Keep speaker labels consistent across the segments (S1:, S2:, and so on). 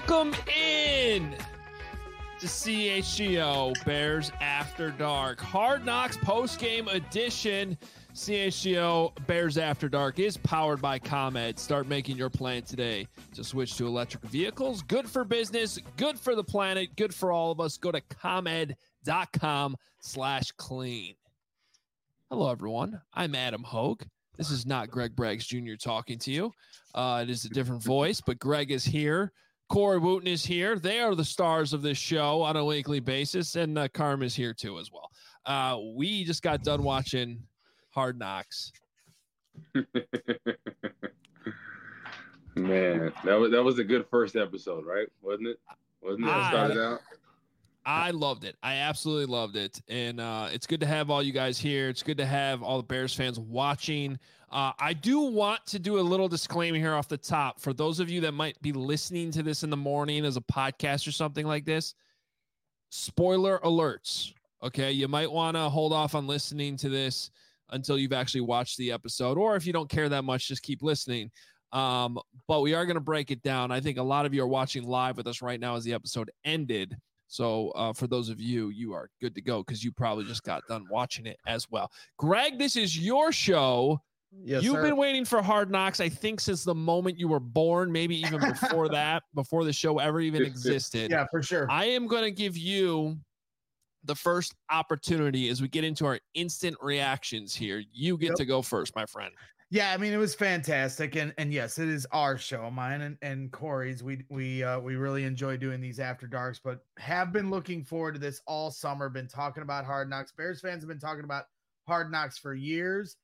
S1: Welcome in to CHGO Bears After Dark. Hard Knocks post-game edition. CHGO Bears After Dark is powered by ComEd. Start making your plan today to switch to electric vehicles. Good for business, good for the planet, good for all of us. Go to ComEd.com/clean. Hello, everyone. I'm Adam Hogue. This is not Greg Braggs Jr. talking to you. It is a different voice, but Greg is here. Corey Wooten is here. They are the stars of this show on a weekly basis, and Carm is here too as well. We just got done watching Hard Knocks.
S2: Man, that was a good first episode, right? Wasn't it? Started out.
S1: I loved it. I absolutely loved it. And it's good to have all you guys here. It's good to have all the Bears fans watching. I do want to do a little disclaimer here off the top. For those of you that might be listening to this in the morning as a podcast or something like this, spoiler alerts. Okay, you might want to hold off on listening to this until you've actually watched the episode. Or if you don't care that much, just keep listening. But we are going to break it down. I think a lot of you are watching live with us right now as the episode ended. So for those of you, you are good to go because you probably just got done watching it as well. Greg, this is your show.
S3: Yes,
S1: You've
S3: sir.
S1: been waiting for Hard Knocks, I think, since the moment you were born, maybe even before that, before the show ever even existed.
S3: Yeah, for sure.
S1: I am going to give you the first opportunity as we get into our instant reactions here. You get to go first, my friend.
S3: Yeah, I mean, it was fantastic, and yes, it is our show, mine and Corey's. We really enjoy doing these after darks, but have been looking forward to this all summer. Been talking about Hard Knocks. Bears fans have been talking about Hard Knocks for years.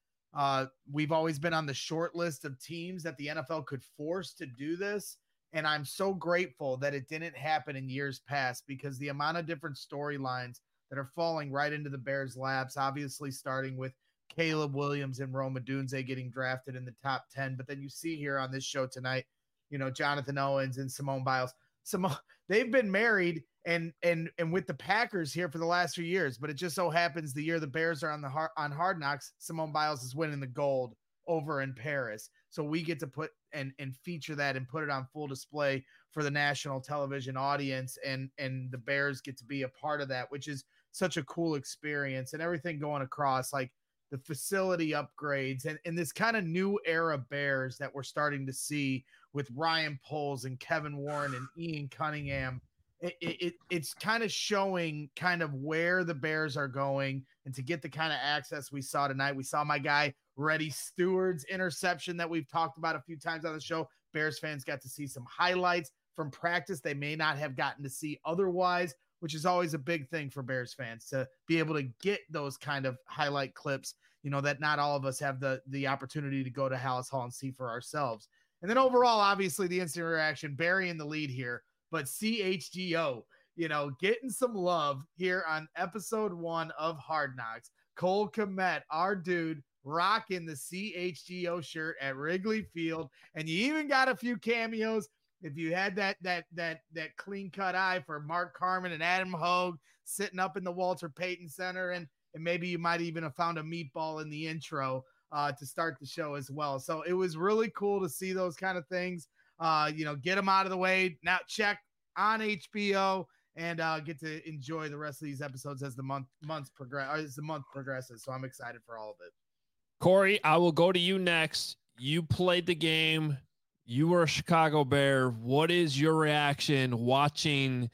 S3: We've always been on the short list of teams that the NFL could force to do this, and I'm so grateful that it didn't happen in years past because the amount of different storylines that are falling right into the Bears' laps. Obviously, starting with Caleb Williams and Rome Odunze getting drafted in the top 10. But then you see here on this show tonight, Jonathan Owens and Simone Biles. They've been married and with the Packers here for the last few years. But it just so happens the year the Bears are on Hard Knocks, Simone Biles is winning the gold over in Paris. So we get to put and feature that and put it on full display for the national television audience. And the Bears get to be a part of that, which is such a cool experience and everything going across, like the facility upgrades and this kind of new era Bears that we're starting to see with Ryan Poles and Kevin Warren and Ian Cunningham. It's kind of showing kind of where the Bears are going, and to get the kind of access we saw tonight. We saw my guy Reddy Steward's interception that we've talked about a few times on the show. Bears fans got to see some highlights from practice they may not have gotten to see otherwise, which is always a big thing for Bears fans to be able to get those kind of highlight clips, that not all of us have the opportunity to go to Hallis Hall and see for ourselves. And then overall, obviously the instant reaction, Barry in the lead here, but CHGO, getting some love here on episode 1 of Hard Knocks. Cole Kmet, our dude, rocking the CHGO shirt at Wrigley Field. And you even got a few cameos. If you had that clean cut eye for Mark Carman and Adam Hogue sitting up in the Walter Payton Center, and maybe you might even have found a meatball in the intro to start the show as well. So it was really cool to see those kind of things. Get them out of the way. Now check on HBO and get to enjoy the rest of these episodes as the month progresses. So I'm excited for all of it.
S1: Corey, I will go to you next. You played the game. You were a Chicago Bear. What is your reaction watching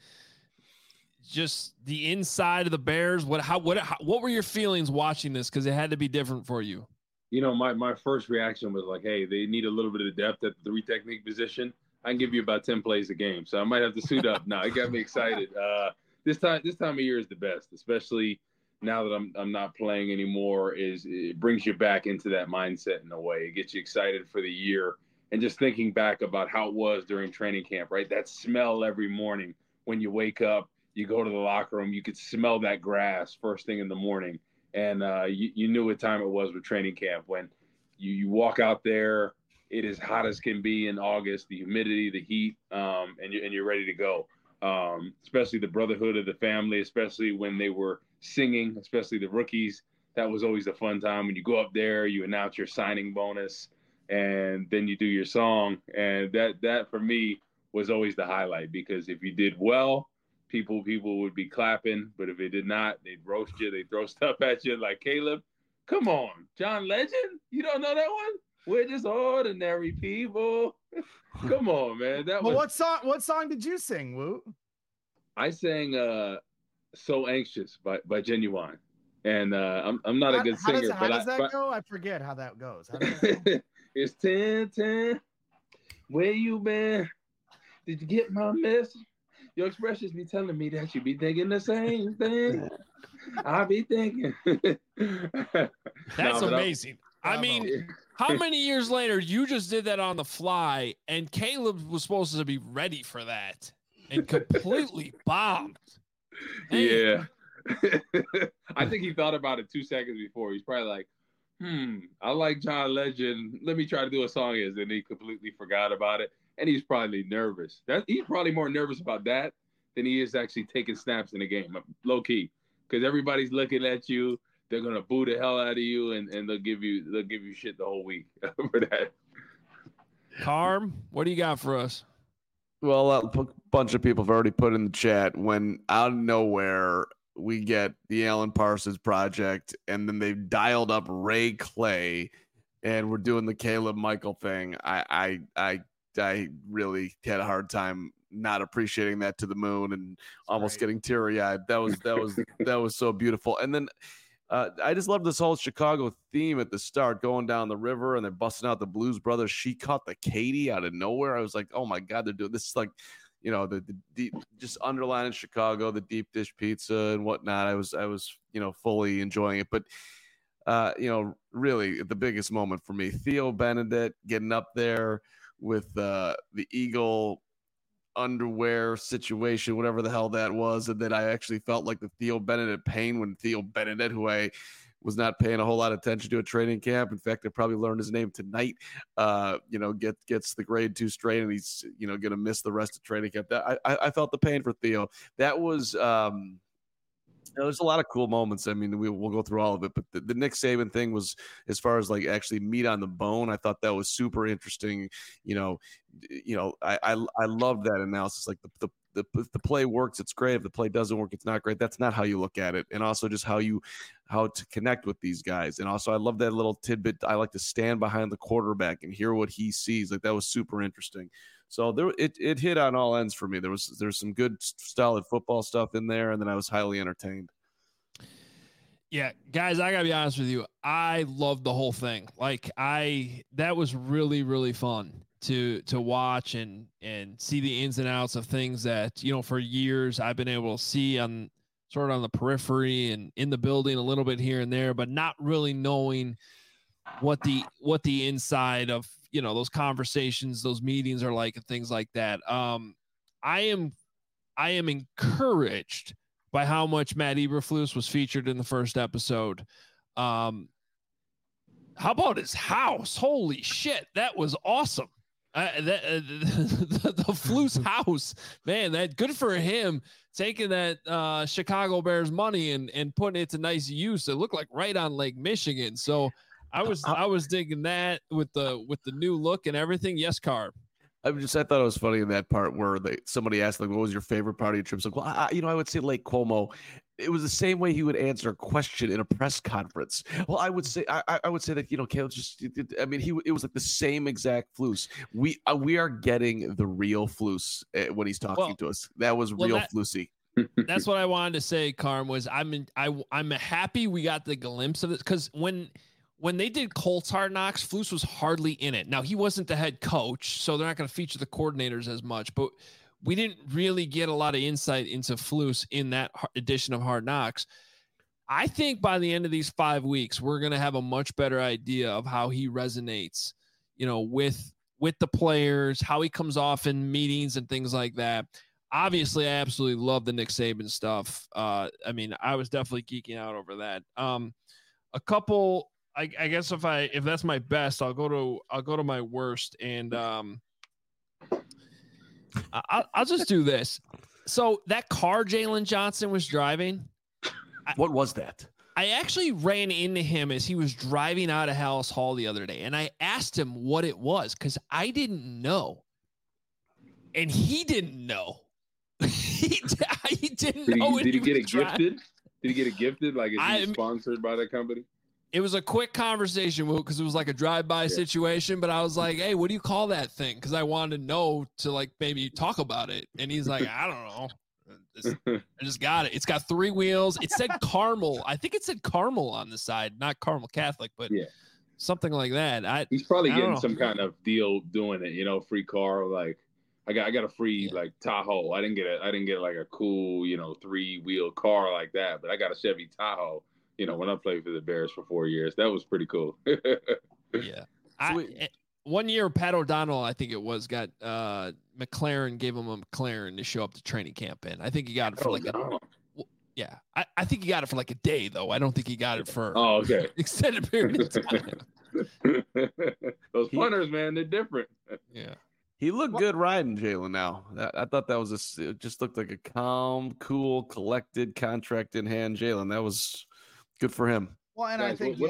S1: just the inside of the Bears? What were your feelings watching this? Because it had to be different for you.
S2: My first reaction was like, hey, they need a little bit of depth at the 3 technique position. I can give you about 10 plays a game, so I might have to suit up. No, it got me excited. This time of year is the best, especially now that I'm not playing anymore. It brings you back into that mindset in a way. It gets you excited for the year. And just thinking back about how it was during training camp, right? That smell every morning when you wake up, you go to the locker room, you could smell that grass first thing in the morning. And you knew what time it was with training camp. When you walk out there, it is hot as can be in August, the humidity, the heat, and you're ready to go. Especially the brotherhood of the family, especially when they were singing, especially the rookies. That was always a fun time. When you go up there, you announce your signing bonus, and then you do your song. And that for me was always the highlight, because if you did well, people would be clapping, but if it did not, they'd roast you, they'd throw stuff at you. Like, Caleb, come on, John Legend, you don't know that one? We're just ordinary people. Come on, man.
S3: What song did you sing, Woot?
S2: I sang "So Anxious" by Genuine, and I'm not a good singer.
S3: How does that go? I forget how that goes.
S2: It's 10-10. Where you been? Did you get my message? Your expressions be telling me that you be thinking the same thing. I be thinking.
S1: That's amazing. I mean, how many years later you just did that on the fly, and Caleb was supposed to be ready for that and completely bombed.
S2: Yeah. I think he thought about it 2 seconds before. He's probably like, I like John Legend. Let me try to do a song is. And he completely forgot about it. And he's probably nervous. He's probably more nervous about that than he is actually taking snaps in the game, low key. Because everybody's looking at you. They're gonna boo the hell out of you, and they'll give you shit the whole week for that.
S1: Carm, what do you got for us?
S4: Well, a bunch of people have already put in the chat, when out of nowhere we get the Alan Parsons Project, and then they've dialed up Ray Clay, and we're doing the Caleb Michael thing. I really had a hard time not appreciating that to the moon, and almost getting teary-eyed. That was so beautiful. And then I just love this whole Chicago theme at the start, going down the river and they're busting out the Blues Brothers. She caught the Katie out of nowhere. I was like, oh my God, they're doing this. Is like, you know, the just underlining Chicago, the deep dish pizza and whatnot. I was, fully enjoying it. But, really the biggest moment for me, Theo Benedict getting up there with the Eagle underwear situation, whatever the hell that was, and then I actually felt like the Theo Benedict pain when Theo Benedict, who I was not paying a whole lot of attention to at training camp. In fact, I probably learned his name tonight. Gets the grade 2 strain, and he's going to miss the rest of training camp. That I felt the pain for Theo. That was there's a lot of cool moments. I mean, we'll go through all of it, but the Nick Saban thing was, as far as like actually meat on the bone, I thought that was super interesting. I love that analysis. Like if the play works, it's great. If the play doesn't work, it's not great. That's not how you look at it. And also just how to connect with these guys. And also I love that little tidbit. I like to stand behind the quarterback and hear what he sees. Like that was super interesting. So it hit on all ends for me. There's some good solid football stuff in there, and then I was highly entertained.
S1: Yeah, guys, I gotta be honest with you. I loved the whole thing. Like that was really, really fun to watch and see the ins and outs of things that, for years I've been able to see on the periphery and in the building a little bit here and there, but not really knowing what the inside of, those conversations, those meetings are like and things like that. I am encouraged by how much Matt Eberflus was featured in the first episode. How about his house? Holy shit. That was awesome. The Flus house, man, that good for him taking that Chicago Bears money and putting it to nice use. It looked like right on Lake Michigan. So I was digging that with the new look and everything. Yes, Carb.
S4: I thought it was funny in that part where somebody asked, like, what was your favorite part of your trip? Like, well, I would say Lake Como. It was the same way he would answer a question in a press conference. Well, I would say that, Caleb it was like the same exact Flus. We are getting the real Flus when he's talking to us. That was real Flusy.
S1: That's what I wanted to say, Carm, was I'm happy we got the glimpse of it, because when they did Colts Hard Knocks, Flus was hardly in it. Now, he wasn't the head coach, so they're not going to feature the coordinators as much, but we didn't really get a lot of insight into Flus in that edition of Hard Knocks. I think by the end of these 5 weeks, we're going to have a much better idea of how he resonates, with the players, how he comes off in meetings and things like that. Obviously, I absolutely love the Nick Saban stuff. I was definitely geeking out over that. A couple... I guess if that's my best, I'll go to my worst, and I'll just do this. So that car Jalen Johnson was driving.
S4: What was that?
S1: I actually ran into him as he was driving out of Hallis Hall the other day, and I asked him what it was because I didn't know. and he didn't know. he didn't know.
S2: Did he get it gifted? Did he get it gifted? Like, is he sponsored by that company?
S1: It was a quick conversation because it was like a drive-by situation, but I was like, hey, what do you call that thing? Because I wanted to know to like maybe talk about it. And he's like, I don't know. I just got it. It's got 3 wheels. It said caramel. I think it said caramel on the side, not caramel Catholic, but something like that.
S2: He's probably getting some kind of deal doing it, you know, free car. Like I got a free like Tahoe. I didn't get like a cool, you know, 3-wheel car like that, but I got a Chevy Tahoe, you know, when I played for the Bears for 4 years. That was pretty cool.
S1: Yeah. One year, Pat O'Donnell, I think it was, got McLaren, gave him a McLaren to show up to training camp in. I think he got it for I think he got it for like a day, though. I don't think he got it for extended period of time.
S2: Those punters, man, they're different.
S1: Yeah.
S4: He looked good riding Jalen now. I thought that was it just looked like a calm, cool, collected, contract in hand Jalen. That was good for him.
S3: Well, and I think,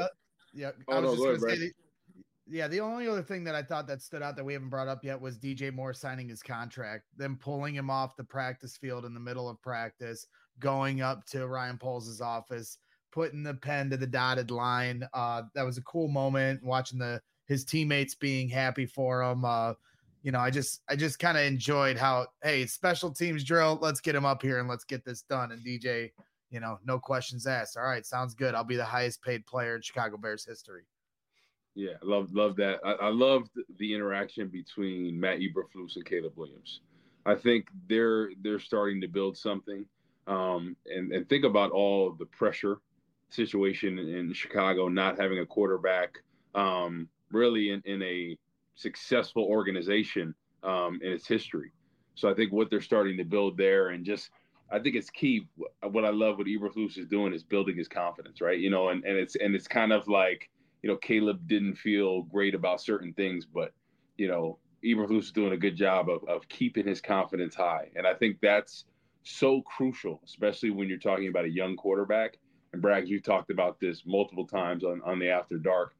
S3: the only other thing that I thought that stood out that we haven't brought up yet was DJ Moore signing his contract, then pulling him off the practice field in the middle of practice, going up to Ryan Poles' office, putting the pen to the dotted line. That was a cool moment, watching his teammates being happy for him. You know, I just kind of enjoyed how, hey, special teams drill, let's get him up here and let's get this done. And DJ, you know, no questions asked. All right, sounds good. I'll be the highest paid player in Chicago Bears history.
S2: Yeah, love that. I loved the interaction between Matt Eberflus and Caleb Williams. I think they're starting to build something. And think about all the pressure situation in Chicago, not having a quarterback, really in a successful organization in its history. So I think what they're starting to build there, and just I think it's key. What I love what Eberflus is doing is building his confidence, right? You know, and it's kind of like, you know, Caleb didn't feel great about certain things, but, you know, Eberflus is doing a good job of keeping his confidence high. And I think that's so crucial, especially when you're talking about a young quarterback. And Braggs, you've talked about this multiple times on the After Dark.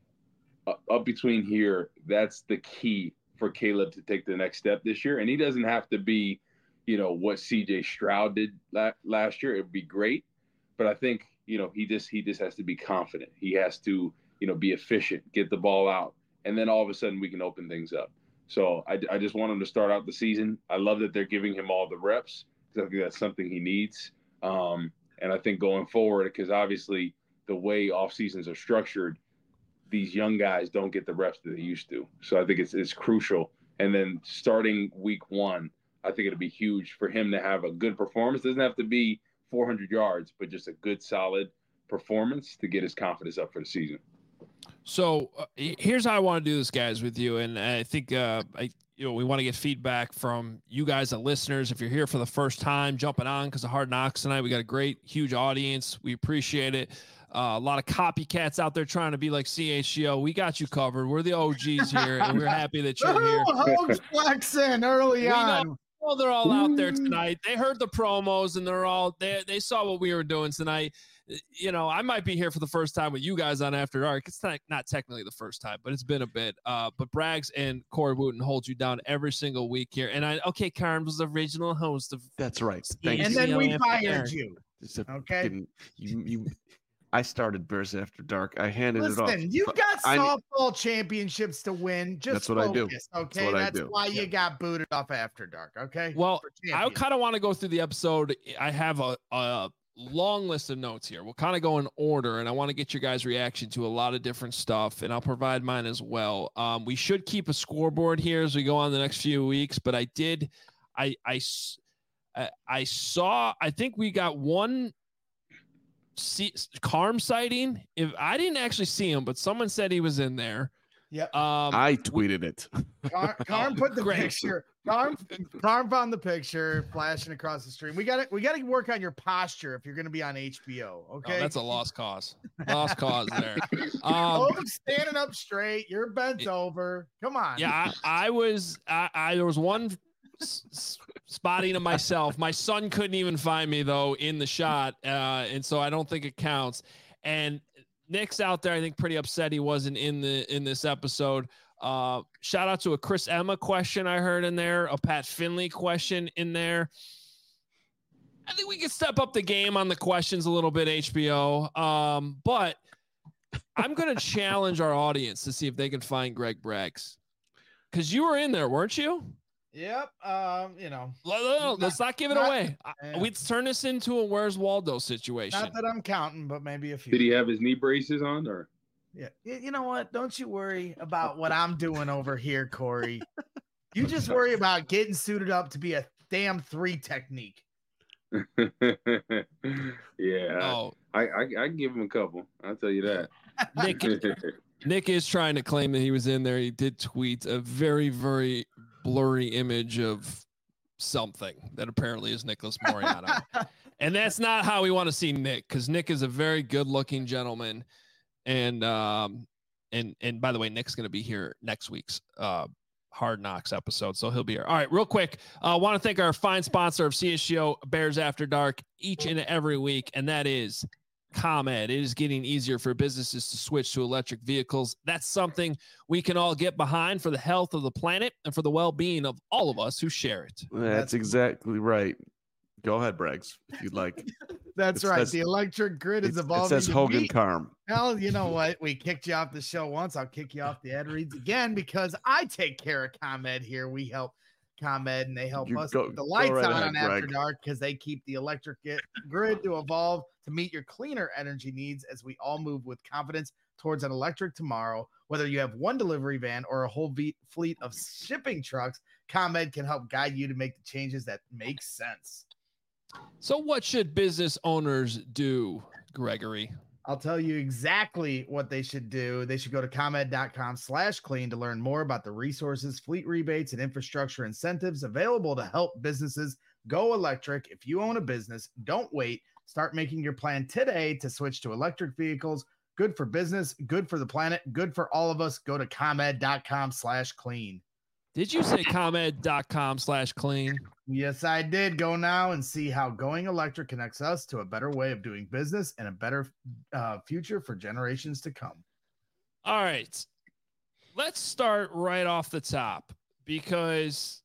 S2: Up between here, that's the key for Caleb to take the next step this year. And he doesn't have to be, you know, what CJ Stroud did last year. It would be great. But I think, you know, he just has to be confident. He has to, you know, be efficient, get the ball out, and then all of a sudden we can open things up. So I just want him to start out the season. I love that they're giving him all the reps, because I think that's something he needs. And I think going forward, because obviously the way off seasons are structured, these young guys don't get the reps that they used to. So I think it's crucial. And then starting week 1, I think it'll be huge for him to have a good performance. It doesn't have to be 400 yards, but just a good, solid performance to get his confidence up for the season.
S1: So here's how I want to do this, guys, with you. And I think, we want to get feedback from you guys, the listeners. If you're here for the first time, jumping on because of Hard Knocks tonight, we got a great, huge audience. We appreciate it. A lot of copycats out there trying to be like CHGO. We got you covered. We're the OGs here, and we're happy that you're here.
S3: Hogs flexing early on.
S1: Well, they're all out there tonight. They heard the promos, and they saw what we were doing tonight. You know, I might be here for the first time with you guys on After Dark. It's not technically the first time, but it's been a bit. But Braggs and Corey Wooten hold you down every single week here. And Karen was the original host of.
S4: That's right. Thank
S3: and
S4: you.
S3: then we fired you.
S4: Okay. I started Bears After Dark. I handed it off.
S3: Listen, you've got softball championships to win. Just
S4: that's what I do.
S3: Okay, that's why you got booted off After Dark. Okay.
S1: Well, I kind of want to go through the episode. I have a long list of notes here. We'll kind of go in order, and I want to get your guys' reaction to a lot of different stuff, and I'll provide mine as well. We should keep a scoreboard here as we go on the next few weeks, but I saw. I think we got one. Carm sighting. If I didn't actually see him, but someone said he was in there.
S3: Yep.
S4: I tweeted it.
S3: Carm put the picture. Carm found the picture flashing across the stream. We got to work on your posture if you're going to be on HBO. Okay.
S1: Oh, that's a lost cause. Lost cause there.
S3: Standing up straight. You're bent over. Come on.
S1: Yeah, I was. There was one spotting of myself. My son couldn't even find me though in the shot, and so I don't think it counts. And Nick's out there, I think, pretty upset he wasn't in this episode. Shout out to a Chris Emma question I heard in there, a Pat Finley question in there. I think we can step up the game on the questions a little bit, HBO. But I'm going to challenge our audience to see if they can find Greg Braggs. Because you were in there, weren't you?
S3: Yep.
S1: Let's not give it away. We'd turn this into a Where's Waldo situation.
S3: Not that I'm counting, but maybe a few.
S2: Did he have his knee braces on, or?
S3: Yeah. You know what? Don't you worry about what I'm doing over here, Corey. You just worry about getting suited up to be a damn 3 technique.
S2: Yeah.
S1: Oh,
S2: I can give him a couple. I'll tell you that.
S1: Nick is trying to claim that he was in there. He did tweet a very, very blurry image of something that apparently is Nicholas Moreano. And that's not how we want to see Nick, because Nick is a very good-looking gentleman. And by the way, Nick's going to be here next week's Hard Knocks episode, so he'll be here. All right, real quick, I want to thank our fine sponsor of CHGO Bears After Dark each and every week, and that is ComEd. It is getting easier for businesses to switch to electric vehicles. That's something we can all get behind for the health of the planet and for the well-being of all of us who share it.
S4: That's exactly right. Go ahead, Braggs, if you'd like.
S3: That's right. The electric grid is evolving.
S4: It says Hogan Carm.
S3: Hell, you know what? We kicked you off the show once. I'll kick you off the ad reads again because I take care of ComEd here. We help ComEd, and they help us keep the lights on After Dark because they keep the electric grid to evolve to meet your cleaner energy needs as we all move with confidence towards an electric tomorrow. Whether you have one delivery van or a whole fleet of shipping trucks, ComEd can help guide you to make the changes that make sense.
S1: So what should business owners do, Gregory?
S3: I'll tell you exactly what they should do. They should go to ComEd.com/clean to learn more about the resources, fleet rebates, and infrastructure incentives available to help businesses go electric. If you own a business, don't wait. Start making your plan today to switch to electric vehicles. Good for business, good for the planet, good for all of us. Go to ComEd.com/clean.
S1: Did you say ComEd.com/clean?
S3: Yes, I did. Go now and see how going electric connects us to a better way of doing business and a better future for generations to come.
S1: All right. Let's start right off the top because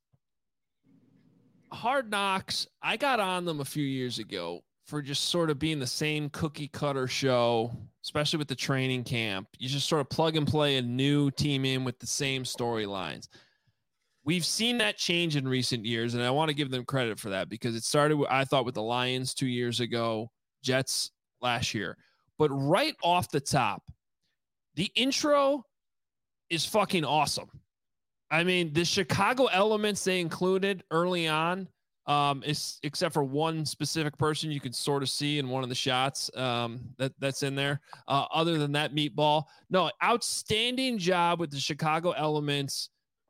S1: Hard Knocks, I got on them a few years ago for just sort of being the same cookie cutter show, especially with the training camp. You just sort of plug and play a new team in with the same storylines. We've seen that change in recent years, and I want to give them credit for that because it started, I thought, with the Lions 2 years ago, Jets last year. But right off the top, the intro is fucking awesome. I mean, the Chicago elements they included early on, except for one specific person you could sort of see in one of the shots that's in there. Other than that, Meatball. No, outstanding job with the Chicago elements.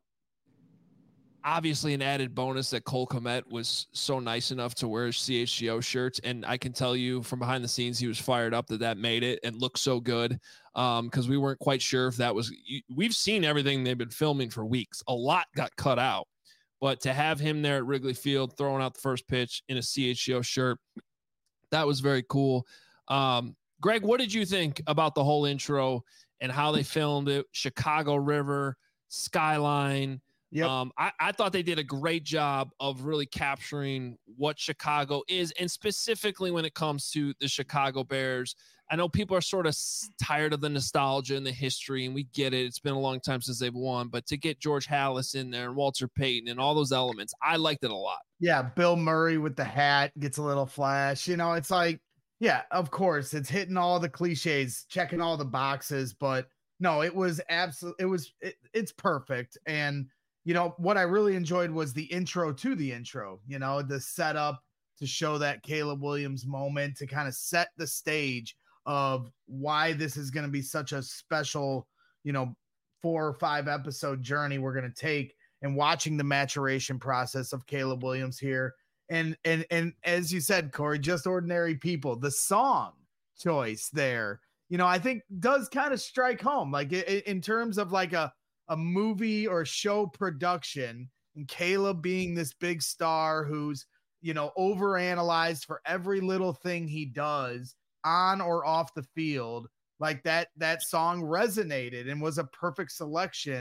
S1: Obviously, an added bonus that Cole Kmet was so nice enough to wear CHGO shirts. And I can tell you from behind the scenes, he was fired up that made it and looked so good because we weren't quite sure if that was – we've seen everything they've been filming for weeks. A lot got cut out. But to have him there at Wrigley Field throwing out the first pitch in a CHGO shirt, that was very cool. Greg, what did you think about the whole intro and how they filmed it? Chicago River, skyline –
S3: Yep.
S1: I thought they did a great job of really capturing what Chicago is, and specifically when it comes to the Chicago Bears. I know people are sort of tired of the nostalgia and the history, and we get it. It's been a long time since they've won, but to get George Halas in there and Walter Payton and all those elements, I liked it a lot.
S3: Yeah, Bill Murray with the hat gets a little flash. You know, it's like, yeah, of course, it's hitting all the cliches, checking all the boxes, but no, it was absolutely, it's perfect. And you know, what I really enjoyed was the intro to the intro, you know, the setup to show that Caleb Williams moment to kind of set the stage of why this is going to be such a special, you know, 4 or 5 episode journey we're going to take, and watching the maturation process of Caleb Williams here. And as you said, Corey, just ordinary people, the song choice there, you know, I think does kind of strike home, like in terms of like a movie or show production, and Caleb being this big star who's, you know, overanalyzed for every little thing he does on or off the field. Like that song resonated and was a perfect selection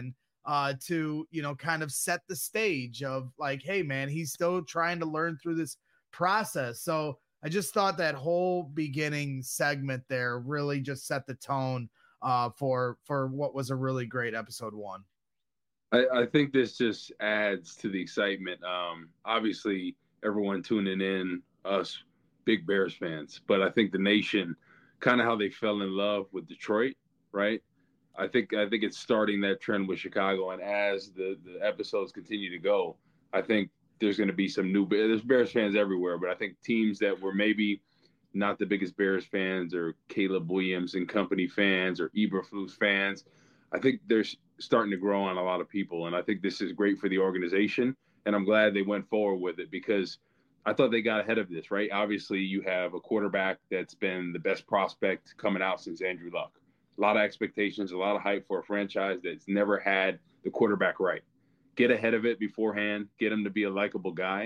S3: to, kind of set the stage of like, hey man, he's still trying to learn through this process. So I just thought that whole beginning segment there really just set the tone for what was a really great episode 1.
S2: I think this just adds to the excitement. Obviously, everyone tuning in, us big Bears fans, but I think the nation, kind of how they fell in love with Detroit, right? I think it's starting that trend with Chicago, and as the episodes continue to go, I think there's going to be some there's Bears fans everywhere, but I think teams that were maybe not the biggest Bears fans or Caleb Williams and company fans or Eberflus fans, I think they're starting to grow on a lot of people. And I think this is great for the organization. And I'm glad they went forward with it because I thought they got ahead of this, right? Obviously, you have a quarterback that's been the best prospect coming out since Andrew Luck. A lot of expectations, a lot of hype for a franchise that's never had the quarterback right. Get ahead of it beforehand, get him to be a likable guy.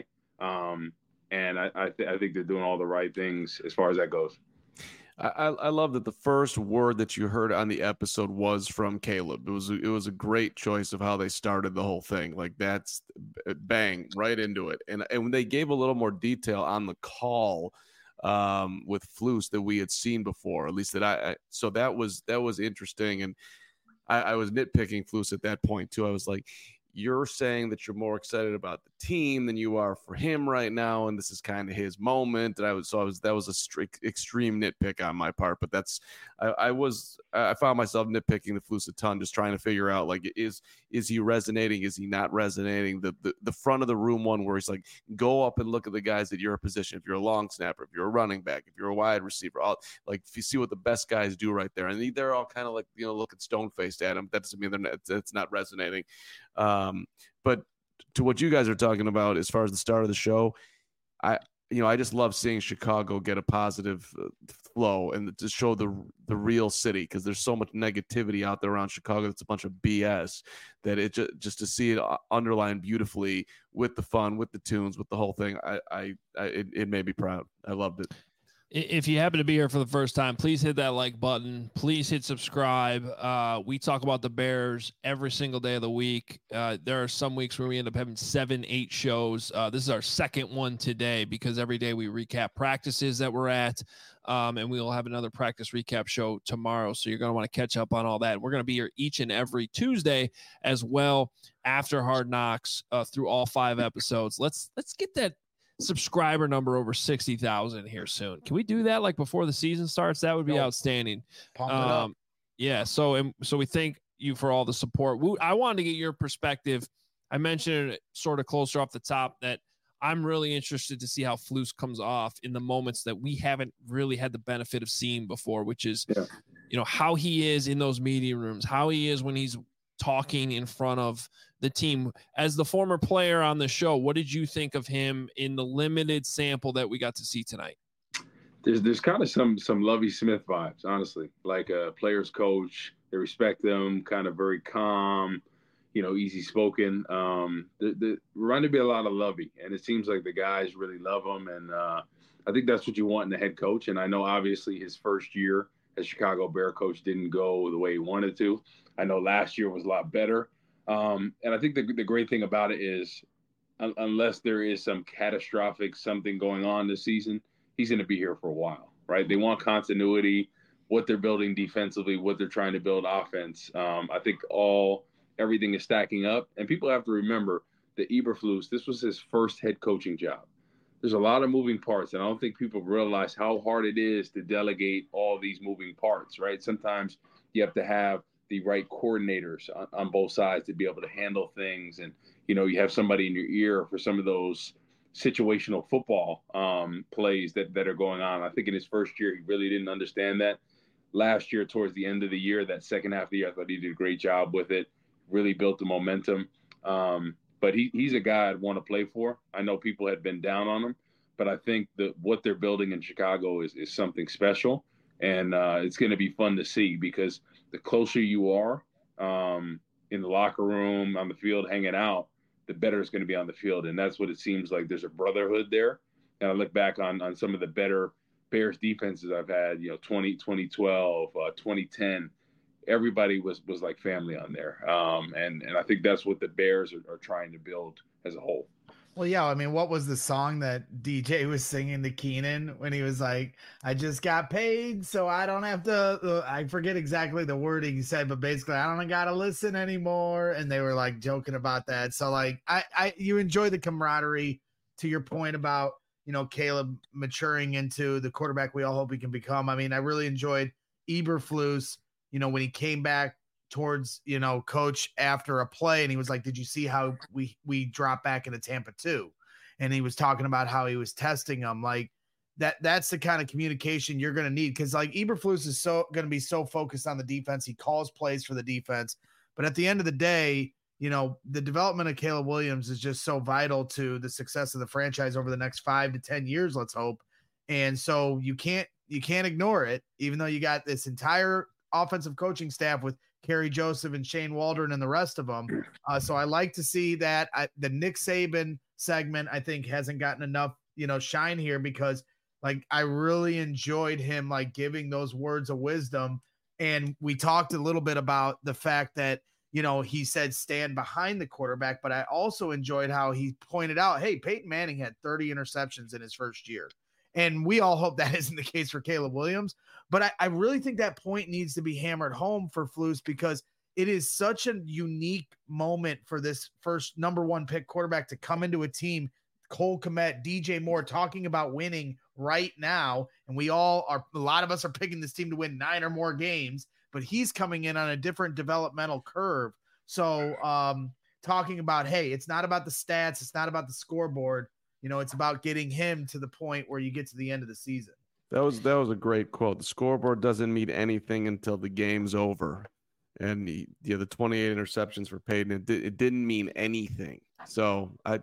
S2: And I think they're doing all the right things as far as that goes.
S4: I love that the first word that you heard on the episode was from Caleb. It was a great choice of how they started the whole thing. Like that's bang right into it. And when they gave a little more detail on the call with Flus that we had seen before, at least that so that was interesting. And I was nitpicking Flus at that point too. I was like, you're saying that you're more excited about the team than you are for him right now, and this is kind of his moment. And that was a strict extreme nitpick on my part, but I found myself nitpicking the Flus a ton, just trying to figure out like is he resonating, is he not resonating? The front of the room one where he's like, go up and look at the guys at your position. If you're a long snapper, if you're a running back, if you're a wide receiver, like if you see what the best guys do right there, and they're all kind of like looking stone faced at him. That doesn't mean it's not resonating. But to what you guys are talking about as far as the start of the show, I just love seeing Chicago get a positive flow and to show the real city, because there's so much negativity out there around Chicago. It's a bunch of BS that it just to see it underlined beautifully with the fun, with the tunes, with the whole thing. It made me proud. I loved it.
S1: If you happen to be here for the first time, please hit that like button. Please hit subscribe. We talk about the Bears every single day of the week. There are some weeks where we end up having 7-8 shows. This is our second one today because every day we recap practices that we're at, and we will have another practice recap show tomorrow. So you're going to want to catch up on all that. We're going to be here each and every Tuesday as well after Hard Knocks through all 5 episodes. Let's get that subscriber number over 60,000 here soon. Can we do that like before the season starts? That would be outstanding.
S3: Pump it up.
S1: Yeah. So we thank you for all the support. I wanted to get your perspective. I mentioned it sort of closer off the top that I'm really interested to see how Flus comes off in the moments that we haven't really had the benefit of seeing before, which is, how he is in those meeting rooms, how he is when he's talking in front of the team. As the former player on the show, what did you think of him in the limited sample that we got to see tonight?
S2: There's kind of some Lovie Smith vibes, honestly, like a player's coach. They respect him, kind of very calm, easy spoken. The reminded me a lot of Lovie, and it seems like the guys really love him, and I think that's what you want in a head coach. And I know obviously his first year as Chicago Bear coach didn't go the way he wanted to. I know last year was a lot better. And I think the great thing about it is unless there is some catastrophic something going on this season, he's going to be here for a while, right? They want continuity, what they're building defensively, what they're trying to build offense. I think everything is stacking up. And people have to remember that Eberflus, this was his first head coaching job. There's a lot of moving parts, and I don't think people realize how hard it is to delegate all these moving parts, right? Sometimes you have to have the right coordinators on both sides to be able to handle things. And, you have somebody in your ear for some of those situational football plays that are going on. I think in his first year, he really didn't understand that. Last year, towards the end of the year, that second half of the year, I thought he did a great job with it, really built the momentum. But he's a guy I'd want to play for. I know people had been down on him, but I think that what they're building in Chicago is something special. And it's going to be fun to see because the closer you are in the locker room, on the field, hanging out, the better it's going to be on the field. And that's what it seems like. There's a brotherhood there. And I look back on some of the better Bears defenses I've had, 2012, 2010. everybody was like family on there. And I think that's what the Bears are trying to build as a whole.
S3: Well, yeah, I mean, what was the song that DJ was singing to Keenan when he was like, I just got paid, so I don't have to, I forget exactly the wording he said, but basically, I don't got to listen anymore. And they were like joking about that. So, like, you enjoy the camaraderie, to your point about, you know, Caleb maturing into the quarterback we all hope he can become. I mean, I really enjoyed Eberflus, you know, when he came back towards, you know, coach after a play, and he was like, did you see how we dropped back into Tampa 2? And he was talking about how he was testing them. Like that's the kind of communication you're going to need, because like Eberflus is so going to be so focused on the defense. He calls plays for the defense, but at the end of the day, you know, the development of Caleb Williams is just so vital to the success of the franchise over the next 5 to 10 years, let's hope. And so you can't ignore it, even though you got this entire offensive coaching staff with Kerry Joseph and Shane Waldron and the rest of them. So I like to see that. The Nick Saban segment, I think, hasn't gotten enough, you know, shine here, because like I really enjoyed him like giving those words of wisdom. And we talked a little bit about the fact that, you know, he said stand behind the quarterback, but I also enjoyed how he pointed out, hey, Peyton Manning had 30 interceptions in his first year. And we all hope that isn't the case for Caleb Williams. But I really think that point needs to be hammered home for Flus, because it is such a unique moment for this first number 1 pick quarterback to come into a team. Cole Kmet, DJ Moore talking about winning right now. And we all are, a lot of us are picking this team to win 9 or more games, but he's coming in on a different developmental curve. So talking about, hey, it's not about the stats. It's not about the scoreboard. You know, it's about getting him to the point where you get to the end of the season.
S4: That was a great quote. The scoreboard doesn't mean anything until the game's over. And the 28 interceptions for Peyton, it didn't mean anything. So I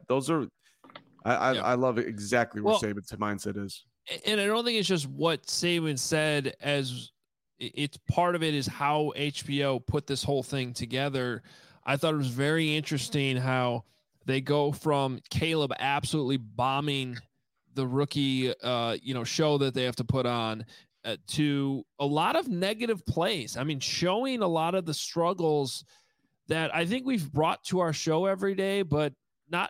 S4: love exactly what Saban's mindset is.
S1: And I don't think it's just what Saban said, as it's part of it is how HBO put this whole thing together. I thought it was very interesting how they go from Caleb absolutely bombing the rookie, show that they have to put on to a lot of negative plays. I mean, showing a lot of the struggles that I think we've brought to our show every day, but not,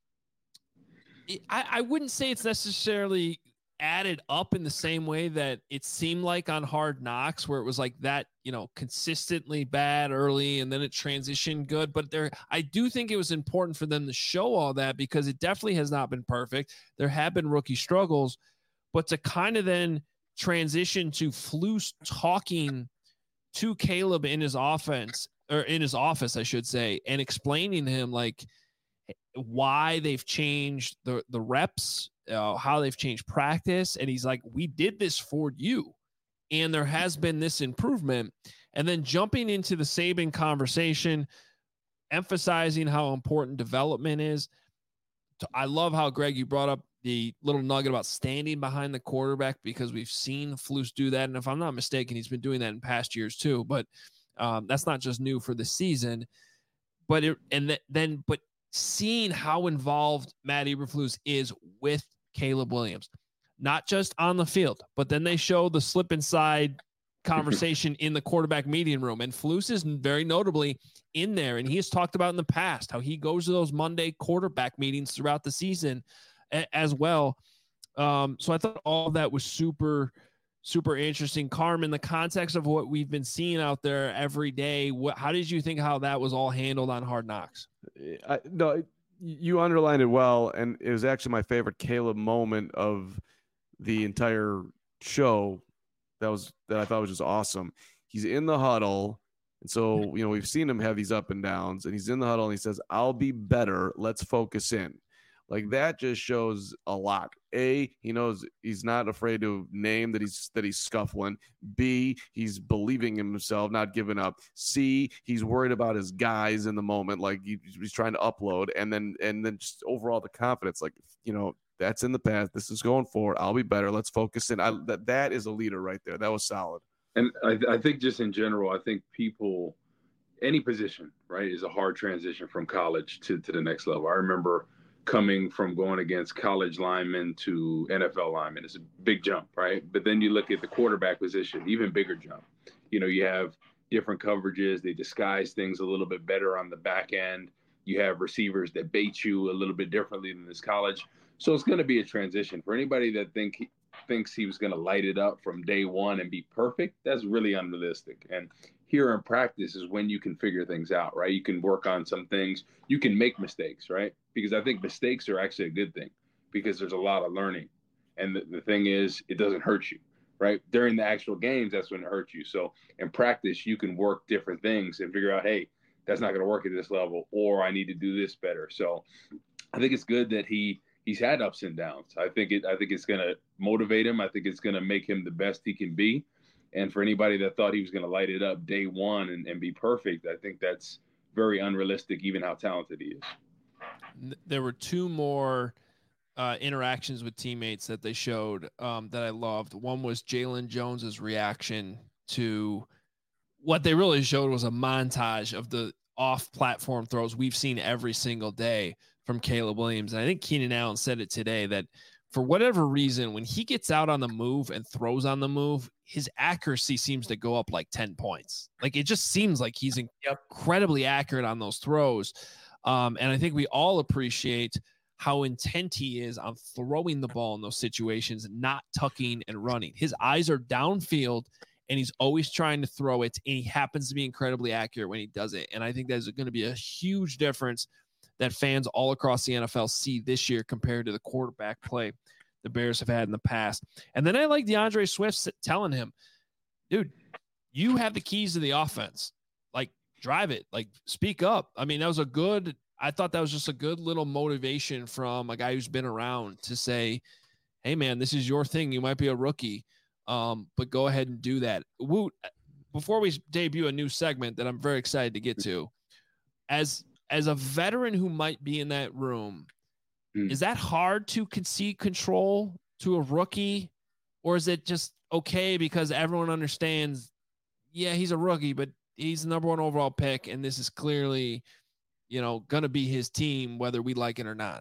S1: I wouldn't say it's necessarily added up in the same way that it seemed like on Hard Knocks, where it was like that, you know, consistently bad early and then it transitioned good. But I do think it was important for them to show all that, because it definitely has not been perfect. There have been rookie struggles, but to kind of then transition to Flus talking to Caleb in his offense, or in his office, I should say, and explaining to him like why they've changed the reps, how they've changed practice. And he's like, we did this for you, and there has been this improvement. And then jumping into the Saban conversation, emphasizing how important development is. I love how, Greg, you brought up the little nugget about standing behind the quarterback, because we've seen Flus do that. And if I'm not mistaken, he's been doing that in past years too, but that's not just new for the season. But seeing how involved Matt Eberflus is with Caleb Williams, not just on the field, but then they show the slip inside conversation in the quarterback meeting room. And Flus is very notably in there. And he has talked about in the past how he goes to those Monday quarterback meetings throughout the season as well. So I thought all of that was super, super interesting. Carm, in the context of what we've been seeing out there every day, how did you think how that was all handled on Hard Knocks?
S4: No, you underlined it well, and it was actually my favorite Caleb moment of the entire show. That I thought was just awesome. He's in the huddle, and so we've seen him have these up and downs, and he's in the huddle and he says, "I'll be better. Let's focus in." Like, that just shows a lot. A, he knows he's not afraid to name that he's scuffling. B, he's believing in himself, not giving up. C, he's worried about his guys in the moment, like he's trying to upload, and then just overall the confidence, like, that's in the past. This is going forward. I'll be better. Let's focus in. That is a leader right there. That was solid.
S2: And I think just in general, I think people, any position, right, is a hard transition from college to the next level. I remember coming from going against college linemen to NFL linemen. It's a big jump, right? But then you look at the quarterback position, even bigger jump. You have different coverages. They disguise things a little bit better on the back end. You have receivers that bait you a little bit differently than this college. So it's going to be a transition for anybody that thinks he was going to light it up from day one and be perfect. That's really unrealistic. And here in practice is when you can figure things out, right? You can work on some things. You can make mistakes, right? Because I think mistakes are actually a good thing because there's a lot of learning. And the thing is, it doesn't hurt you, right? During the actual games, that's when it hurts you. So in practice, you can work different things and figure out, hey, that's not going to work at this level, or I need to do this better. So I think it's good that he's had ups and downs. I think it's going to motivate him. I think it's going to make him the best he can be. And for anybody that thought he was going to light it up day one and be perfect, I think that's very unrealistic, even how talented he is.
S1: There were two more interactions with teammates that they showed that I loved. One was Jalen Jones's reaction to what they really showed was a montage of the off-platform throws we've seen every single day from Caleb Williams. And I think Keenan Allen said it today that for whatever reason, when he gets out on the move and throws on the move, his accuracy seems to go up like 10 points. Like it just seems like he's incredibly accurate on those throws. And I think we all appreciate how intent he is on throwing the ball in those situations, not tucking and running. His eyes are downfield and he's always trying to throw it. And he happens to be incredibly accurate when he does it. And I think that's going to be a huge difference that fans all across the NFL see this year compared to the quarterback play the Bears have had in the past. And then I like DeAndre Swift telling him, dude, you have the keys to the offense. Like, drive it. Like, speak up. I mean, I thought that was just a good little motivation from a guy who's been around to say, hey, man, this is your thing. You might be a rookie, but go ahead and do that. Woot, before we debut a new segment that I'm very excited to get to, as a veteran who might be in that room, is that hard to concede control to a rookie, or is it just okay because everyone understands, yeah, he's a rookie, but he's the number one overall pick, and this is clearly, going to be his team, whether we like it or not?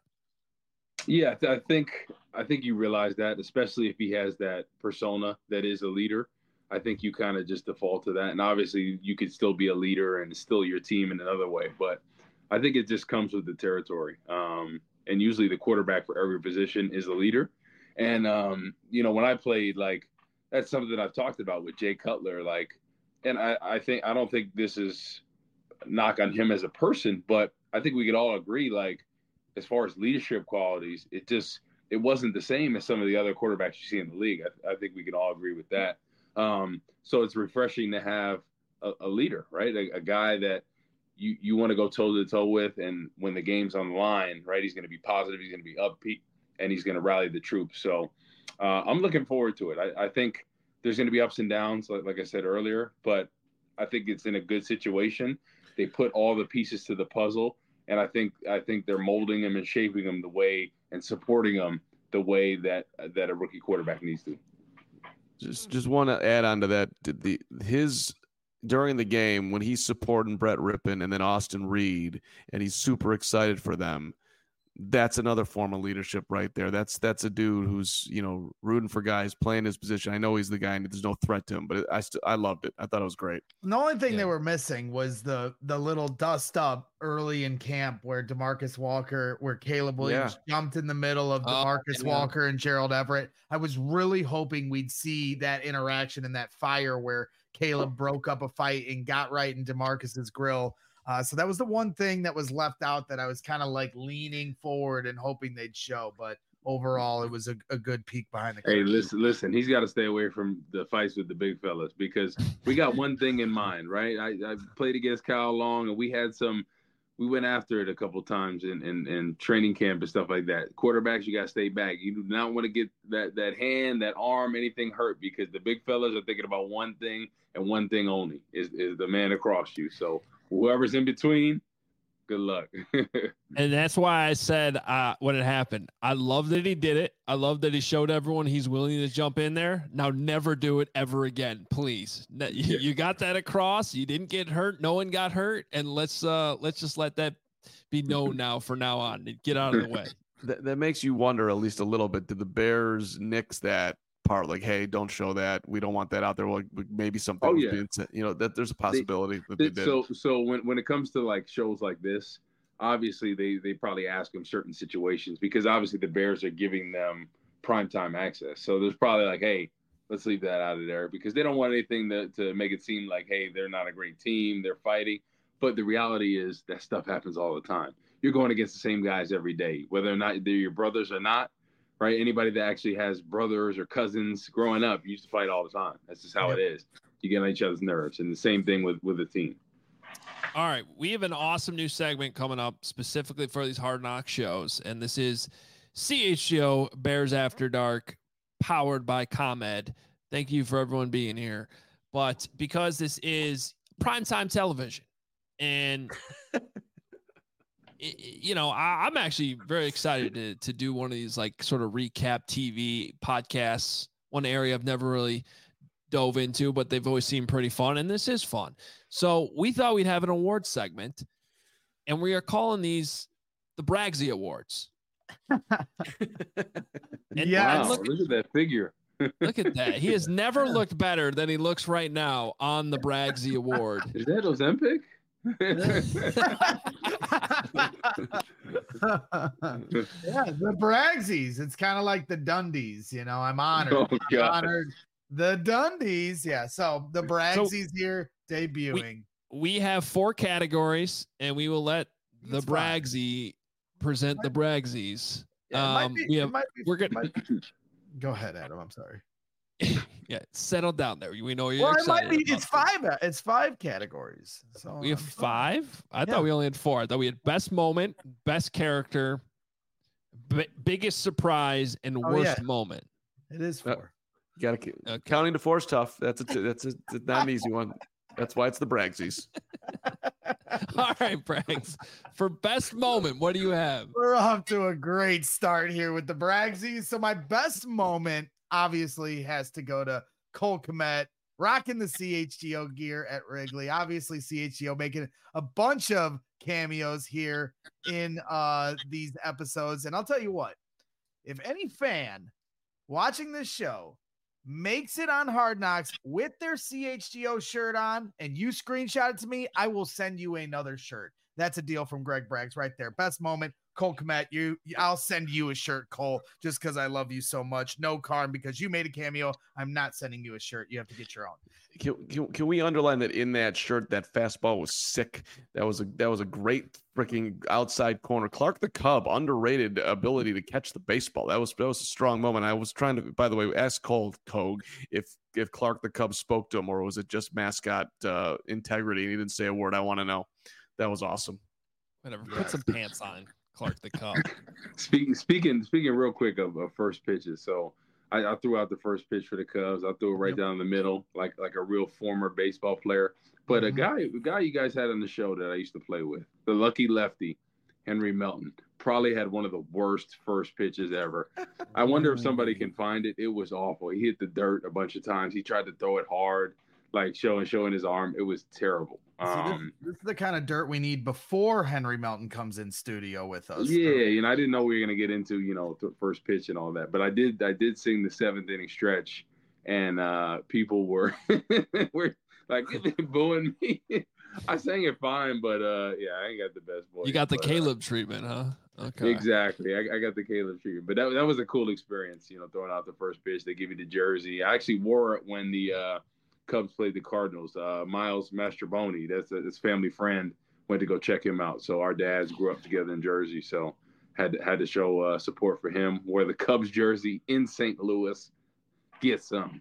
S2: Yeah, I think you realize that, especially if he has that persona that is a leader. I think you kind of just default to that. And obviously you could still be a leader and still your team in another way. But I think it just comes with the territory. And usually the quarterback for every position is a leader. And, when I played, like, that's something that I've talked about with Jay Cutler. Like, and I don't think this is a knock on him as a person, but I think we could all agree, like, as far as leadership qualities, it wasn't the same as some of the other quarterbacks you see in the league. I think we can all agree with that. So it's refreshing to have a leader, right? A guy that you want to go toe to toe with. And when the game's on the line, right, he's going to be positive, he's going to be upbeat, and he's going to rally the troops. So I'm looking forward to it. I think there's going to be ups and downs, like I said earlier, but I think it's in a good situation. They put all the pieces to the puzzle, and I think they're molding him and shaping him the way and supporting him the way that a rookie quarterback needs to.
S4: Just want to add on to that. During the game when he's supporting Brett Rippon and then Austin Reed, and he's super excited for them, that's another form of leadership right there. That's a dude who's, rooting for guys, playing his position. I know he's the guy and there's no threat to him, but I loved it. I thought it was great.
S3: The only thing they were missing was the little dust up early in camp where Caleb Williams jumped in the middle of DeMarcus Walker and Gerald Everett. I was really hoping we'd see that interaction and that fire where Caleb broke up a fight and got right in DeMarcus's grill. So that was the one thing that was left out that I was kind of like leaning forward and hoping they'd show. But overall, it was a good peek behind the curtain.
S2: Hey, listen, he's got to stay away from the fights with the big fellas because we got one thing in mind, right? I played against Kyle Long, and we went after it a couple times in training camp and stuff like that. Quarterbacks, you got to stay back. You do not want to get that hand, that arm, anything hurt because the big fellas are thinking about one thing and one thing only is the man across you. So whoever's in between, good luck.
S1: And that's why I said when it happened, I love that he did it. I love that he showed everyone he's willing to jump in there. Now never do it ever again, please. You got that across. You didn't get hurt. No one got hurt. And let's just let that be known now from now on and get out of the way.
S4: That makes you wonder at least a little bit. Did the Bears nix that apart. Like, hey, don't show that. We don't want that out there. Like, maybe something.
S2: Oh,
S4: was
S2: yeah.
S4: being said, that there's a possibility that they did.
S2: So when it comes to like shows like this, obviously they probably ask them certain situations because obviously the Bears are giving them primetime access. So there's probably like, hey, let's leave that out of there because they don't want anything to make it seem like, hey, they're not a great team, they're fighting. But the reality is that stuff happens all the time. You're going against the same guys every day, whether or not they're your brothers or not, right? Anybody that actually has brothers or cousins growing up used to fight all the time. That's just how it is. You get on each other's nerves. And the same thing with the team.
S1: All right. We have an awesome new segment coming up specifically for these Hard Knock shows. And this is CHGO Bears After Dark, powered by ComEd. Thank you for everyone being here. But because this is primetime television, and I'm actually very excited to do one of these like sort of recap TV podcasts. One area I've never really dove into, but they've always seemed pretty fun, and this is fun. So we thought we'd have an award segment, and we are calling these the Bragsy Awards.
S3: Yeah,
S2: wow, look at that figure.
S1: Look at that. He has never looked better than he looks right now on the Bragsy Award.
S2: Is that Ozempic?
S3: Yeah, the Bragsies. It's kind of like the Dundies, I'm honored. I'm honored. The Dundies, yeah. So the Bragsies here debuting.
S1: We have 4 categories, and we will let the Bragsy present the Bragsies.
S3: Go ahead, Adam. I'm sorry.
S1: Yeah, settle down there. We know you're excited.
S3: It's 5 categories. So
S1: we have 5. I thought we only had 4. I thought we had best moment, best character, biggest surprise, and worst moment.
S3: It is 4.
S4: You got to keep counting to 4 is tough. That's not an easy one. That's why it's the Bragsies.
S1: All right, Brags. For best moment, what do you have?
S3: We're off to a great start here with the Bragsies. So my best moment obviously has to go to Cole Kmet rocking the CHGO gear at Wrigley. Obviously, CHGO making a bunch of cameos here in these episodes. And I'll tell you what, if any fan watching this show makes it on Hard Knocks with their CHGO shirt on and you screenshot it to me, I will send you another shirt. That's a deal from Greg Braggs right there. Best moment, Cole Kmet. I'll send you a shirt, Cole, just because I love you so much. No, Karn, because you made a cameo. I'm not sending you a shirt. You have to get your own.
S4: Can we underline that in that shirt, that fastball was sick. That was a great freaking outside corner. Clark the Cub, underrated ability to catch the baseball. That was a strong moment. I was trying to, by the way, ask Cole Kogue if Clark the Cub spoke to him, or was it just mascot integrity? And he didn't say a word. I want to know. That was awesome.
S1: Whatever. Put some pants on, Clark the Cub.
S2: Speaking real quick of first pitches. So I threw out the first pitch for the Cubs. I threw it right down the middle, like a real former baseball player. But a guy you guys had on the show that I used to play with, the lucky lefty, Henry Melton, probably had one of the worst first pitches ever. I wonder if somebody can find it. It was awful. He hit the dirt a bunch of times. He tried to throw it hard, like showing his arm. It was terrible.
S3: This is the kind of dirt we need before Henry Melton comes in studio with us.
S2: Yeah, I didn't know we were gonna get into the first pitch and all that, but I did sing the 7th inning stretch, and people were were like booing me. I sang it fine, but I ain't got the best voice.
S1: You got the Caleb treatment, huh? Okay,
S2: exactly. I got the Caleb treatment, but that was a cool experience. Throwing out the first pitch, they give you the jersey. I actually wore it when the Cubs played the Cardinals. Miles Mastrobuoni, that's his family friend, went to go check him out. So our dads grew up together in Jersey, so had to show support for him. Wear the Cubs jersey in St. Louis. Get some.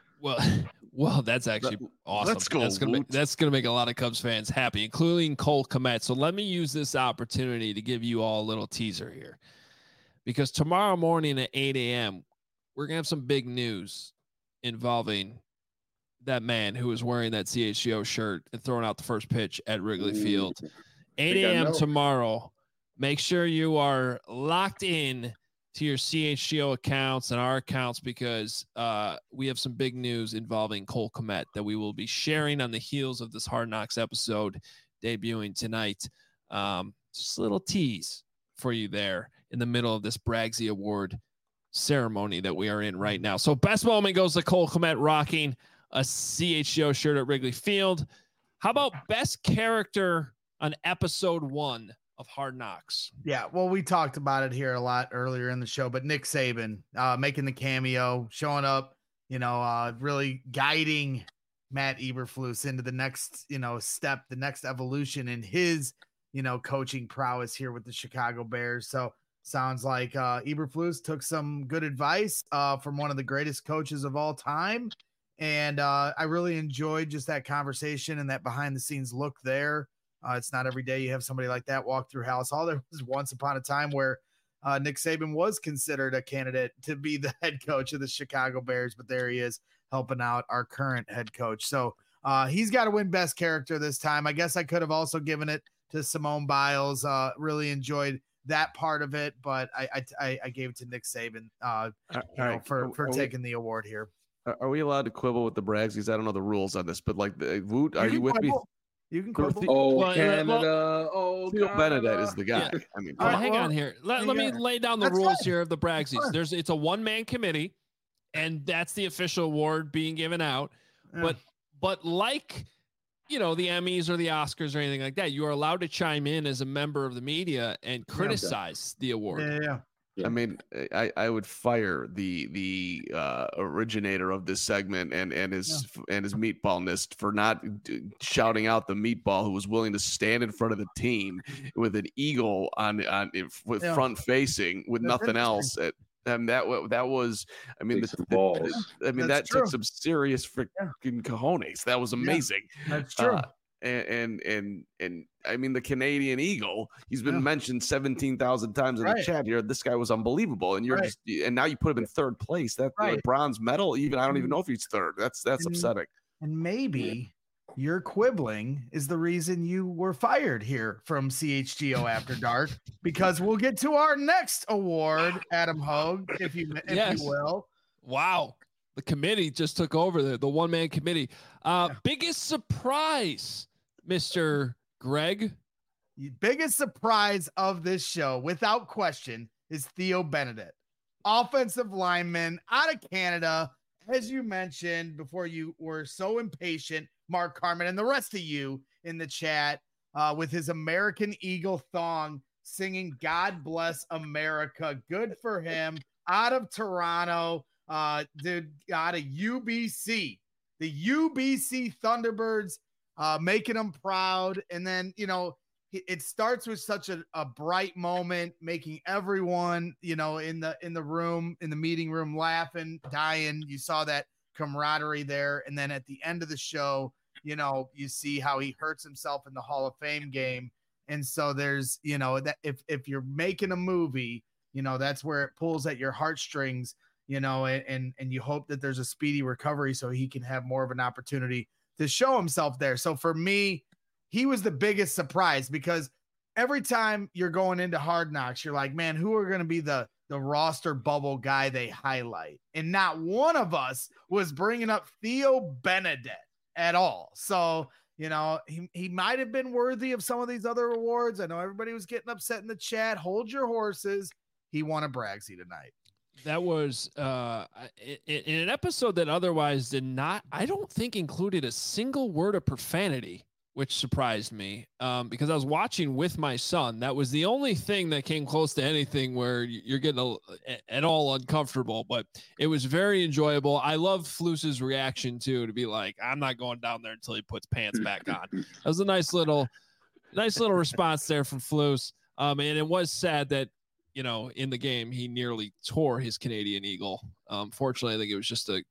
S1: Well, that's actually awesome.
S4: Let's go.
S1: That's gonna make a lot of Cubs fans happy, including Cole Kmet. So let me use this opportunity to give you all a little teaser here, because tomorrow morning at 8 a.m. we're gonna have some big news involving that man who was wearing that CHGO shirt and throwing out the first pitch at Wrigley Field. 8 a.m. tomorrow. Make sure you are locked in to your CHGO accounts and our accounts, because we have some big news involving Cole Kmet that we will be sharing on the heels of this Hard Knocks episode debuting tonight. Just a little tease for you there in the middle of this Bragsy Award ceremony that we are in right now. So best moment goes to Cole Kmet rocking a CHGO shirt at Wrigley Field. How about best character on episode 1 of Hard Knocks?
S3: Yeah, well, we talked about it here a lot earlier in the show, but Nick Saban making the cameo, showing up, really guiding Matt Eberflus into the next, step, the next evolution in his, coaching prowess here with the Chicago Bears. So sounds like Eberflus took some good advice from one of the greatest coaches of all time. And I really enjoyed just that conversation and that behind the scenes look there. It's not every day you have somebody like that walk through Halas Hall. There was once upon a time where Nick Saban was considered a candidate to be the head coach of the Chicago Bears, but there he is helping out our current head coach. So he's got to win best character this time. I guess I could have also given it to Simone Biles. Really enjoyed that part of it, but I gave it to Nick Saban for taking the award here.
S4: Are we allowed to quibble with the Bragsies? I don't know the rules on this, but Woot, are you with me?
S3: You can quibble.
S2: Canada.
S4: Theo Benedette is the guy.
S1: Yeah.
S4: I mean,
S1: hang on here. Let me lay down the rules here of the Bragsies. It's a one-man committee, and that's the official award being given out. Yeah. But like, the Emmys or the Oscars or anything like that, you are allowed to chime in as a member of the media and criticize the award.
S3: Yeah.
S4: I mean, I would fire the originator of this segment and his meatballness for not shouting out the meatball who was willing to stand in front of the team with an eagle with front facing with nothing else. And that was, I mean, that took some serious freaking cojones. That was amazing.
S3: Yeah, that's true.
S4: And I mean, the Canadian Eagle, he's been mentioned 17,000 times in the chat here. This guy was unbelievable. And and now you put him in third place. That bronze medal, I don't even know if he's third. That's upsetting.
S3: And maybe your quibbling is the reason you were fired here from CHGO After Dark, because we'll get to our next award, Adam Hogue, if you will.
S1: Wow. The committee just took over the one-man committee. Biggest surprise, Mr. Greg?
S3: Biggest surprise of this show, without question, is Theo Benedette. Offensive lineman out of Canada, as you mentioned before you were so impatient, Mark Carmen, and the rest of you in the chat with his American Eagle thong singing God Bless America. Good for him. Out of Toronto. Dude, out of UBC, the UBC Thunderbirds, making them proud. And then, it starts with such a bright moment, making everyone, in the room, in the meeting room, laughing, dying. You saw that camaraderie there. And then at the end of the show, you see how he hurts himself in the Hall of Fame game. And so there's, that if you're making a movie, that's where it pulls at your heartstrings. And you hope that there's a speedy recovery so he can have more of an opportunity to show himself there. So for me, he was the biggest surprise, because every time you're going into Hard Knocks, you're like, man, who are going to be the roster bubble guy they highlight? And not one of us was bringing up Theo Benedette at all. So, he might have been worthy of some of these other awards. I know everybody was getting upset in the chat. Hold your horses. He won a Bragsy tonight.
S1: That was in an episode that otherwise did not, I don't think, included a single word of profanity, which surprised me because I was watching with my son. That was the only thing that came close to anything where you're getting at all uncomfortable, but it was very enjoyable. I love Flus's reaction too, to be like, I'm not going down there until he puts pants back on. That was a nice little response there from Flus. And it was sad that, in the game, he nearly tore his Canadian Eagle. Fortunately, I think it was just a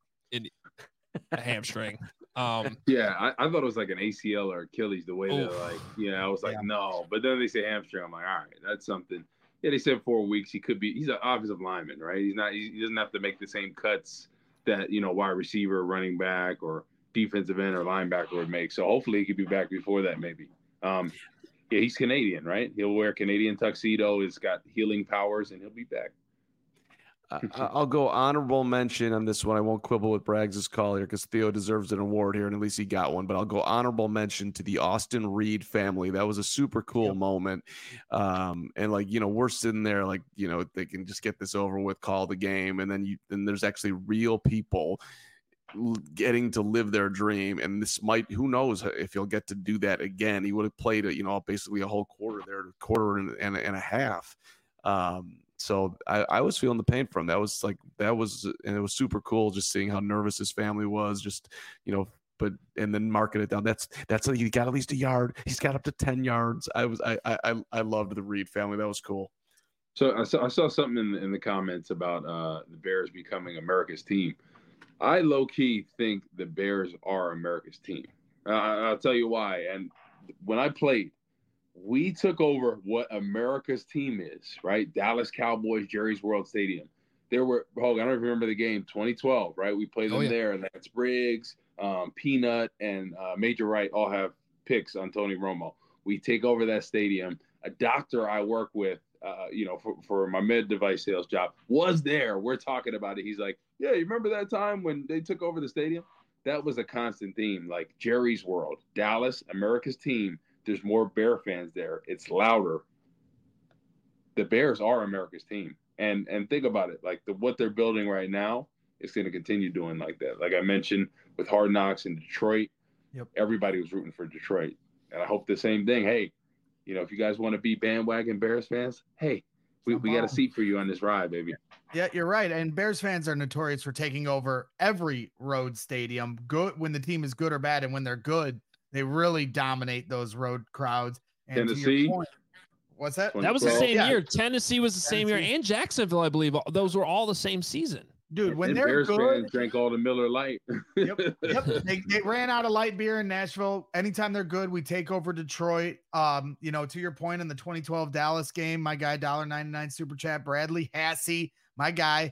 S1: hamstring.
S2: I thought it was like an ACL or Achilles, the way they're I was like, no. But then they say hamstring. I'm like, all right, that's something. Yeah, they said 4 weeks. He's an offensive lineman, right? He doesn't have to make the same cuts that, wide receiver, running back, or defensive end or linebacker would make. So hopefully he could be back before that, maybe. Yeah, he's Canadian, right? He'll wear Canadian tuxedo. He's got healing powers, and he'll be back.
S4: I'll go honorable mention on this one. I won't quibble with Braggs' call here because Theo deserves an award here, and at least he got one. But I'll go honorable mention to the Austin Reed family. That was a super cool moment. And like, we're sitting there like, they can just get this over with, call the game, and then there's actually real people getting to live their dream. And this might, who knows if he'll get to do that again. He would have played basically a whole quarter there, quarter and a half. So I was feeling the pain from him. And it was super cool just seeing how nervous his family was, and then marking it down. That's like, he got at least a yard. He's got up to 10 yards. I loved the Reed family. That was cool.
S2: So I saw something in the comments about the Bears becoming America's team. I low-key think the Bears are America's team. I'll tell you why. And when I played, we took over what America's team is, right? Dallas Cowboys, Jerry's World Stadium. There were, I don't even remember the game, 2012, right? We played them there. Lance Briggs, Peanut, and Major Wright all have picks on Tony Romo. We take over that stadium. A doctor I work with, for my med device sales job, was there. We're talking about it. He's like, yeah, you remember that time when they took over the stadium? That was a constant theme, like Jerry's World, Dallas, America's team. There's more Bear fans there. It's louder. The Bears are America's team. And think about it. Like what they're building right now is going to continue doing like that. Like I mentioned with Hard Knocks in Detroit, everybody was rooting for Detroit. And I hope the same thing. Hey, if you guys want to be bandwagon Bears fans, hey, we got a seat for you on this ride, baby.
S3: Yeah, you're right. And Bears fans are notorious for taking over every road stadium, good when the team is good or bad. And when they're good, they really dominate those road crowds. And
S2: Tennessee,
S3: what's that?
S1: That was the same year. Tennessee was the same year, and Jacksonville, I believe. Those were all the same season.
S3: Dude, when they're
S2: Bears
S3: good,
S2: fans drank all the Miller Lite.
S3: Yep. They ran out of light beer in Nashville. Anytime they're good, we take over Detroit. To your point in the 2012 Dallas game, my guy $1.99 super chat, Bradley Hassey, my guy.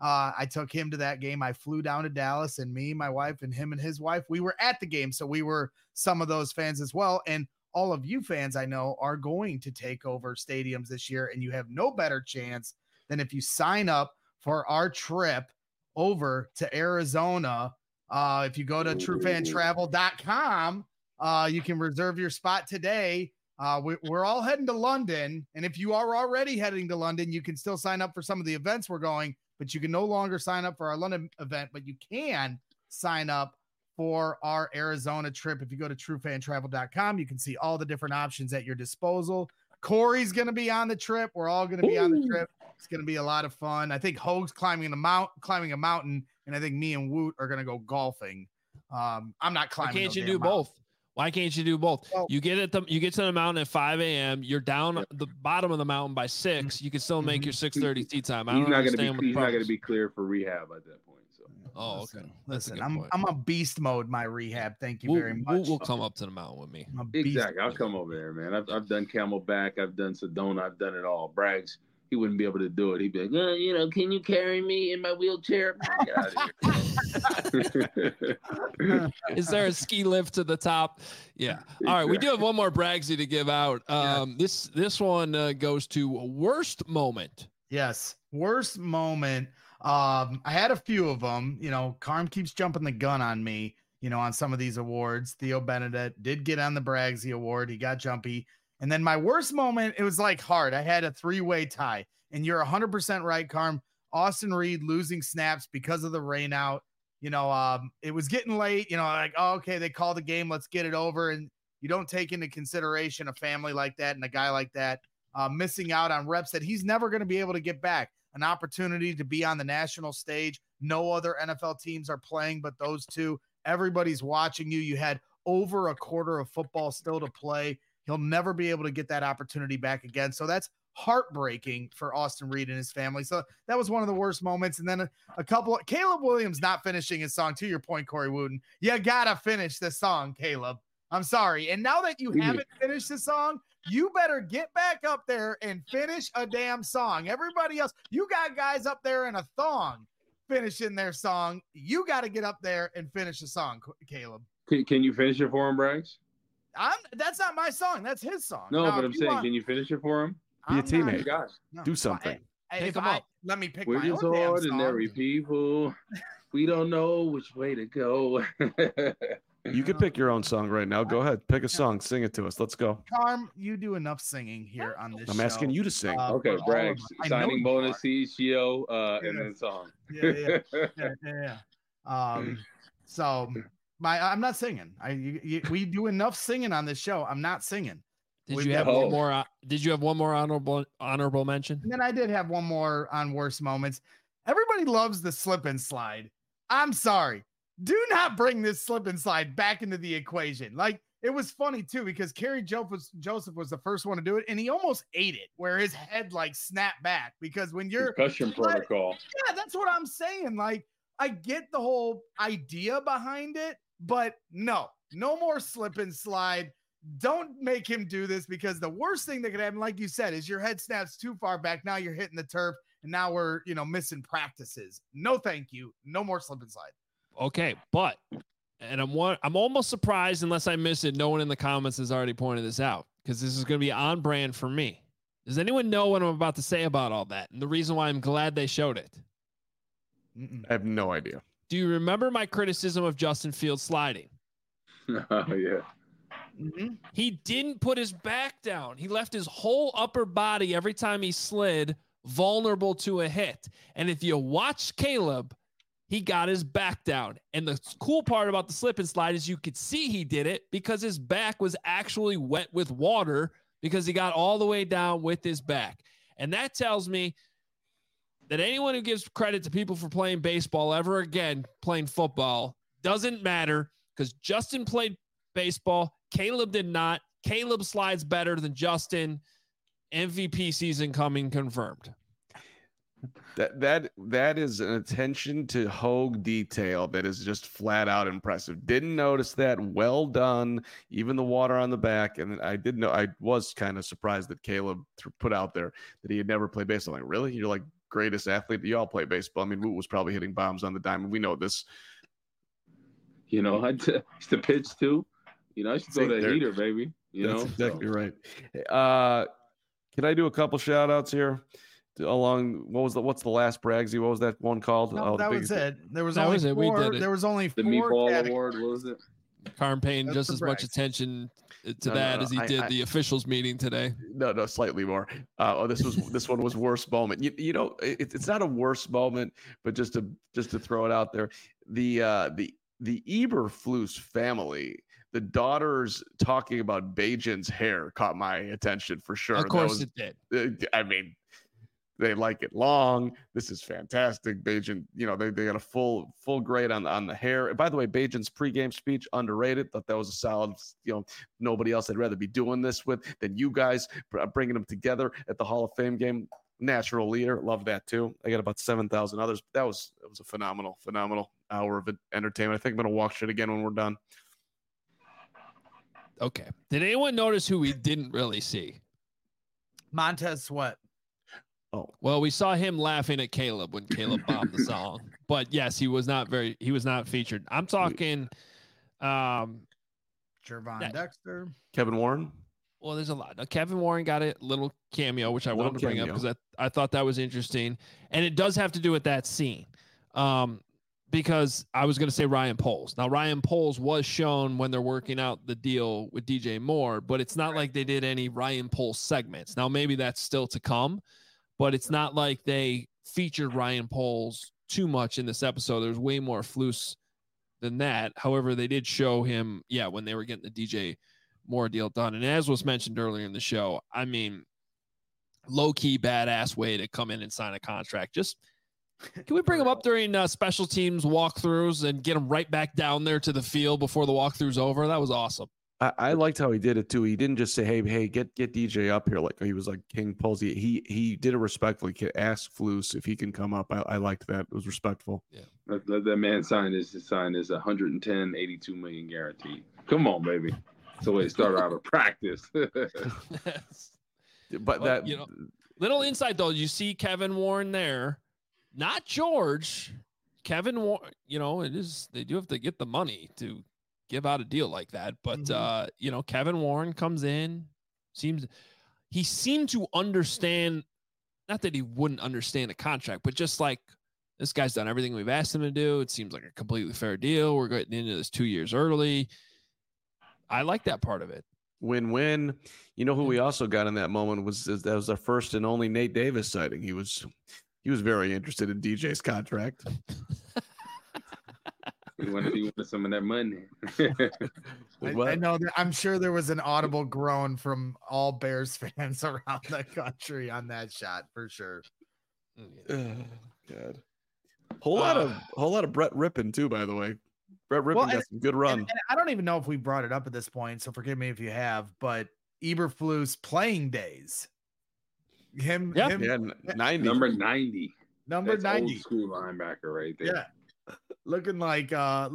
S3: I took him to that game. I flew down to Dallas, and me, my wife, and him and his wife, we were at the game. So we were some of those fans as well. And all of you fans I know are going to take over stadiums this year, and you have no better chance than if you sign up for our trip over to Arizona. If you go to truefantravel.com, you can reserve your spot today. We're all heading to London. And if you are already heading to London, you can still sign up for some of the events we're going, but you can no longer sign up for our London event, but you can sign up for our Arizona trip. If you go to truefantravel.com, you can see all the different options at your disposal. Corey's going to be on the trip. We're all going to be on the trip. It's going to be a lot of fun. I think Hoag's climbing a mountain, and I think me and Woot are going to go golfing. I'm not climbing.
S1: Why can't you do both? Why can't you do both? Well, you get to the mountain at 5 a.m. You're down the bottom of the mountain by 6. You can still make your 6:30 tee time.
S2: He's not going to be clear for rehab at that point. So.
S1: Oh, okay.
S3: Listen, I'm a beast mode. My rehab. Thank you very much.
S1: We'll come up to the mountain with me.
S2: Exactly. I'll come over there, man. I've done Camelback. I've done Sedona. I've done it all. Braggs, he wouldn't be able to do it. He'd be like, can you carry me in my wheelchair? Get out of
S1: here. Is there a ski lift to the top? Yeah. Exactly. All right. We do have one more Braggsy to give out. This one goes to worst moment.
S3: Yes. Worst moment. I had a few of them. Carm keeps jumping the gun on me, on some of these awards. Theo Benedett did get on the Braggsy award. He got jumpy. And then my worst moment, it was like hard. I had a 3-way tie, and you're 100% right, Carm. Austin Reed losing snaps because of the rain out. It was getting late, okay, they called the game. Let's get it over. And you don't take into consideration a family like that and a guy like that missing out on reps that he's never going to be able to get back. An opportunity to be on the national stage. No other NFL teams are playing but those two. Everybody's watching you. You had over a quarter of football still to play. He'll never be able to get that opportunity back again. So that's heartbreaking for Austin Reed and his family. So that was one of the worst moments. And then a couple of Caleb Williams not finishing his song. To your point, Corey Wooten, you gotta finish this song, Caleb. I'm sorry. And now that you haven't finished the song, you better get back up there and finish a damn song. Everybody else, you got guys up there in a thong finishing their song. You got to get up there and finish the song, Caleb.
S2: Can you finish it for him, Braggs?
S3: That's not my song. That's his song.
S2: No, but I'm saying, can you finish it for him?
S4: Be a teammate.
S2: Gosh.
S4: Do something.
S3: let me pick
S2: We're
S3: my
S2: just
S3: own damn
S2: ordinary
S3: song.
S2: people. We don't know which way to go.
S4: You could pick your own song right now. Go ahead, pick a song, sing it to us. Let's go.
S3: Carm, you do enough singing here on this
S4: I'm
S3: show.
S4: asking you to sing.
S2: Okay,
S3: for all
S2: Bragg,
S3: of us. I know
S2: signing
S3: you
S2: bonus,
S3: are.
S2: CEO, and
S3: Yes.
S2: then song.
S3: Yeah. So I'm not singing. We do enough singing on this show. I'm not singing.
S1: Did you have one more? Did you have one more honorable mention?
S3: And then I did have one more on worst moments. Everybody loves the slip and slide. I'm sorry. Do not bring this slip and slide back into the equation. Like, it was funny too, because Kerry Joseph was the first one to do it, and he almost ate it, where his head like snapped back. Because when you're
S2: concussion protocol.
S3: Yeah, that's what I'm saying. Like, I get the whole idea behind it, but no more slip and slide. Don't make him do this, because the worst thing that could happen, like you said, is your head snaps too far back. Now you're hitting the turf, and now we're missing practices. No, thank you. No more slip and slide.
S1: Okay, but I'm almost surprised, unless I missed it, no one in the comments has already pointed this out, because this is going to be on brand for me. Does anyone know what I'm about to say about all that, and the reason why I'm glad they showed it?
S4: I have no idea.
S1: Do you remember my criticism of Justin Fields sliding?
S2: Oh, yeah.
S3: Mm-hmm.
S1: He didn't put his back down. He left his whole upper body every time he slid vulnerable to a hit. And if you watch Caleb, he got his back down. And the cool part about the slip and slide is you could see he did it because his back was actually wet with water, because he got all the way down with his back. And that tells me that anyone who gives credit to people for playing baseball ever again playing football doesn't matter, because Justin played baseball. Caleb did not. Caleb slides better than Justin. MVP season coming, confirmed.
S4: That is an attention to Hogue detail that is just flat out impressive. Didn't notice that. Well done. Even the water on the back. And I did know, I was kind of surprised that Caleb put out there that he had never played baseball. Like, really? You're like greatest athlete. You all play baseball. I mean, Woot was probably hitting bombs on the diamond. We know this.
S2: I used to pitch too. I should throw that heater, baby.
S4: That's exactly right. Can I do a couple shout outs here? What's the last Braggsy? What was that one called?
S3: No, that was it. There was
S1: that
S3: only
S1: was it.
S3: four.
S1: We did it.
S3: There was only
S2: the
S3: four
S2: Meatball
S3: categories.
S2: Award. What was it?
S1: Carm paying just as much
S3: Braggsy.
S1: attention to as he did the officials meeting today.
S4: No, slightly more. This one was worst moment. It's not a worst moment, but just to throw it out there, the Eberflus family, the daughters talking about Bajan's hair caught my attention for sure.
S1: Of course it did.
S4: I mean, they like it long. This is fantastic. Bajan, they got a full grade on the hair. And by the way, Bajan's pregame speech, underrated. Thought that was a solid, nobody else I'd rather be doing this with than you guys, bringing them together at the Hall of Fame game. Natural leader. Love that too. I got about 7,000 others. It was a phenomenal hour of entertainment. I think I'm going to watch it again when we're done.
S1: Okay. Did anyone notice who we didn't really see?
S3: Montez Sweat.
S4: Oh,
S1: well, we saw him laughing at Caleb when Caleb bombed the song, but yes, he was not featured. I'm talking,
S3: Jervon Dexter,
S4: Kevin Warren.
S1: Well, there's a lot. Now, Kevin Warren got a little cameo, which I wanted to bring up because I thought that was interesting. And it does have to do with that scene. Because I was going to say Ryan Poles. Now, Ryan Poles was shown when they're working out the deal with DJ Moore, but it's not like they did any Ryan Poles segments. Now, maybe that's still to come, but it's not like they featured Ryan Poles too much in this episode. There's way more Flus than that. However, they did show him, when they were getting the DJ Moore deal done. And as was mentioned earlier in the show, I mean, low-key badass way to come in and sign a contract. Just can we bring him up during special teams walkthroughs and get him right back down there to the field before the walkthrough's over? That was awesome.
S4: I liked how he did it too. He didn't just say, "Hey, get DJ up here." Like he was like King Posey. He did it respectfully. Ask Flus if he can come up. I liked that. It was respectful.
S2: Yeah, let that man sign his 110, 82 million guaranteed. Come on, baby. That's the way to start out of practice.
S4: But that
S1: little insight though, you see Kevin Warren there. Not George, Kevin Warren, they do have to get the money to give out a deal like that. But, Kevin Warren comes in, he seemed to understand not that he wouldn't understand a contract, but just like this guy's done everything we've asked him to do. It seems like a completely fair deal. We're getting into this 2 years early. I like that part of it.
S4: Win-win. You know who we also got in that moment that was our first and only Nate Davis sighting. He was very interested in DJ's contract.
S2: He wanted some of that money.
S3: I know that. I'm sure there was an audible groan from all Bears fans around the country on that shot for sure.
S4: God. Whole lot of Brett Rippon too, by the way. Brett Rippon got some good run.
S3: And I don't even know if we brought it up at this point, so forgive me if you have, but Eberflus playing days. Him
S4: 90.
S2: Number 90.
S3: Number
S2: That's
S3: 90.
S2: Old school linebacker right there.
S3: Yeah. Looking like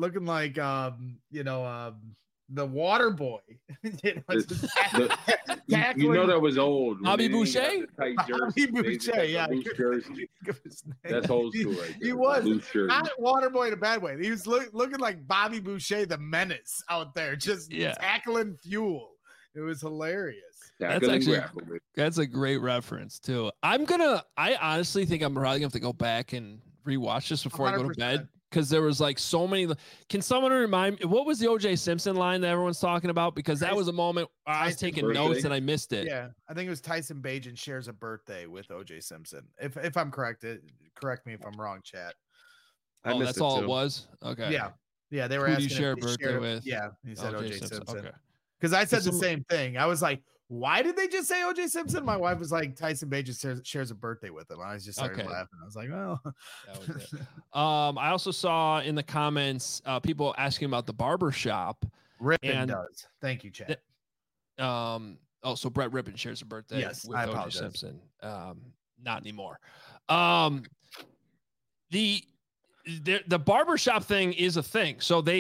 S3: the water boy.
S2: You know that was old.
S1: Bobby Boucher?
S3: Bobby Boucher, yeah.
S2: That's old school right there.
S3: He was not water boy in a bad way. He was looking like Bobby Boucher, the menace out there, just tackling fuel. It was hilarious.
S1: That's a great reference too. I honestly think I'm probably gonna have to go back and rewatch this before 100%. I go to bed. Because there was like so many. Can someone remind me what was the O.J. Simpson line that everyone's talking about? Because that was a moment I was taking notes and I missed it.
S3: Yeah, I think it was Tyson Bagent shares a birthday with O.J. Simpson. If I'm correct, correct me if I'm wrong, chat.
S1: That's all it was. Okay.
S3: Yeah. They were asking.
S1: Who do you share a birthday with?
S3: Yeah, he said O.J. Simpson.
S1: Okay.
S3: Because I said the same thing. I was like, why did they just say O.J. Simpson? My wife was like, Tyson Bagent shares a birthday with him. I was just started laughing. I was like, well.
S1: That was it. I also saw in the comments people asking about the barber shop.
S3: Rippon does. Thank you, Chad.
S1: So Brett Rippon shares a birthday with O.J. Simpson. Not anymore. The barbershop thing is a thing.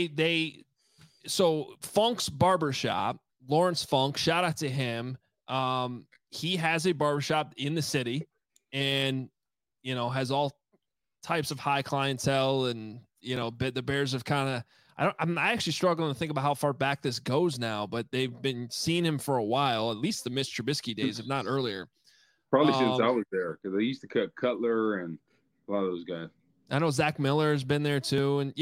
S1: So Funk's Barbershop, Lawrence Funk, shout out to him. He has a barbershop in the city and, has all types of high clientele. And, the Bears have kind of, I'm actually struggling to think about how far back this goes now, but they've been seeing him for a while, at least the Mitch Trubisky days, if not earlier.
S2: Probably since I was there, because they used to cut Cutler and a lot of those guys.
S1: I know Zach Miller has been there too. And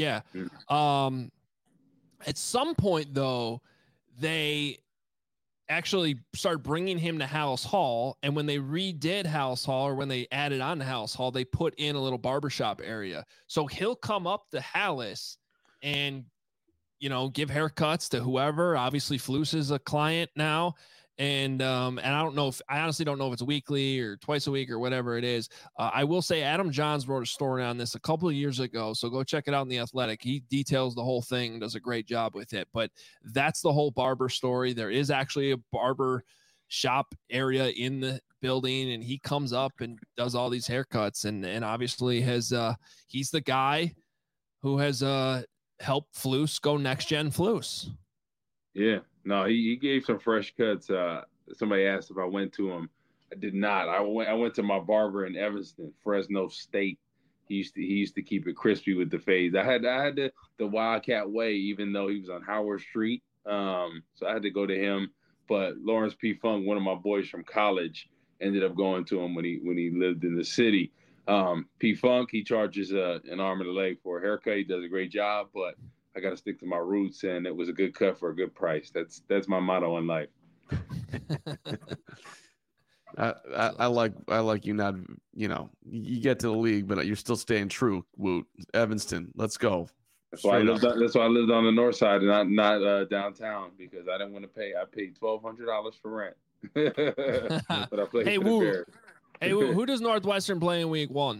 S1: at some point, though, they actually started bringing him to Halas Hall. And when they redid Halas Hall, or when they added on to Halas Hall, they put in a little barbershop area. So he'll come up to Halas and, give haircuts to whoever. Obviously, Flus is a client now. And I honestly don't know if it's weekly or twice a week or whatever it is. I will say Adam Johns wrote a story on this a couple of years ago, so go check it out in The Athletic. He details the whole thing, does a great job with it. But that's the whole barber story. There is actually a barber shop area in the building, and he comes up and does all these haircuts, and obviously he's the guy who has helped Flus go next gen Flus.
S2: Yeah. No, he gave some fresh cuts. Somebody asked if I went to him. I did not. I went to my barber in Evanston, Fresno State. He used to keep it crispy with the fades. I had the Wildcat way, even though he was on Howard Street. So I had to go to him. But Lawrence P. Funk, one of my boys from college, ended up going to him when he lived in the city. P. Funk, he charges an arm and a leg for a haircut. He does a great job, but I got to stick to my roots, and it was a good cut for a good price. That's my motto in life.
S4: I like you not, you get to the league, but you're still staying true. Woot, Evanston, let's go.
S2: That's why I lived on the north side and not downtown, because I didn't want to pay. I paid $1,200 for rent. But I played for the Bears.
S1: Hey, who does Northwestern play in week 1?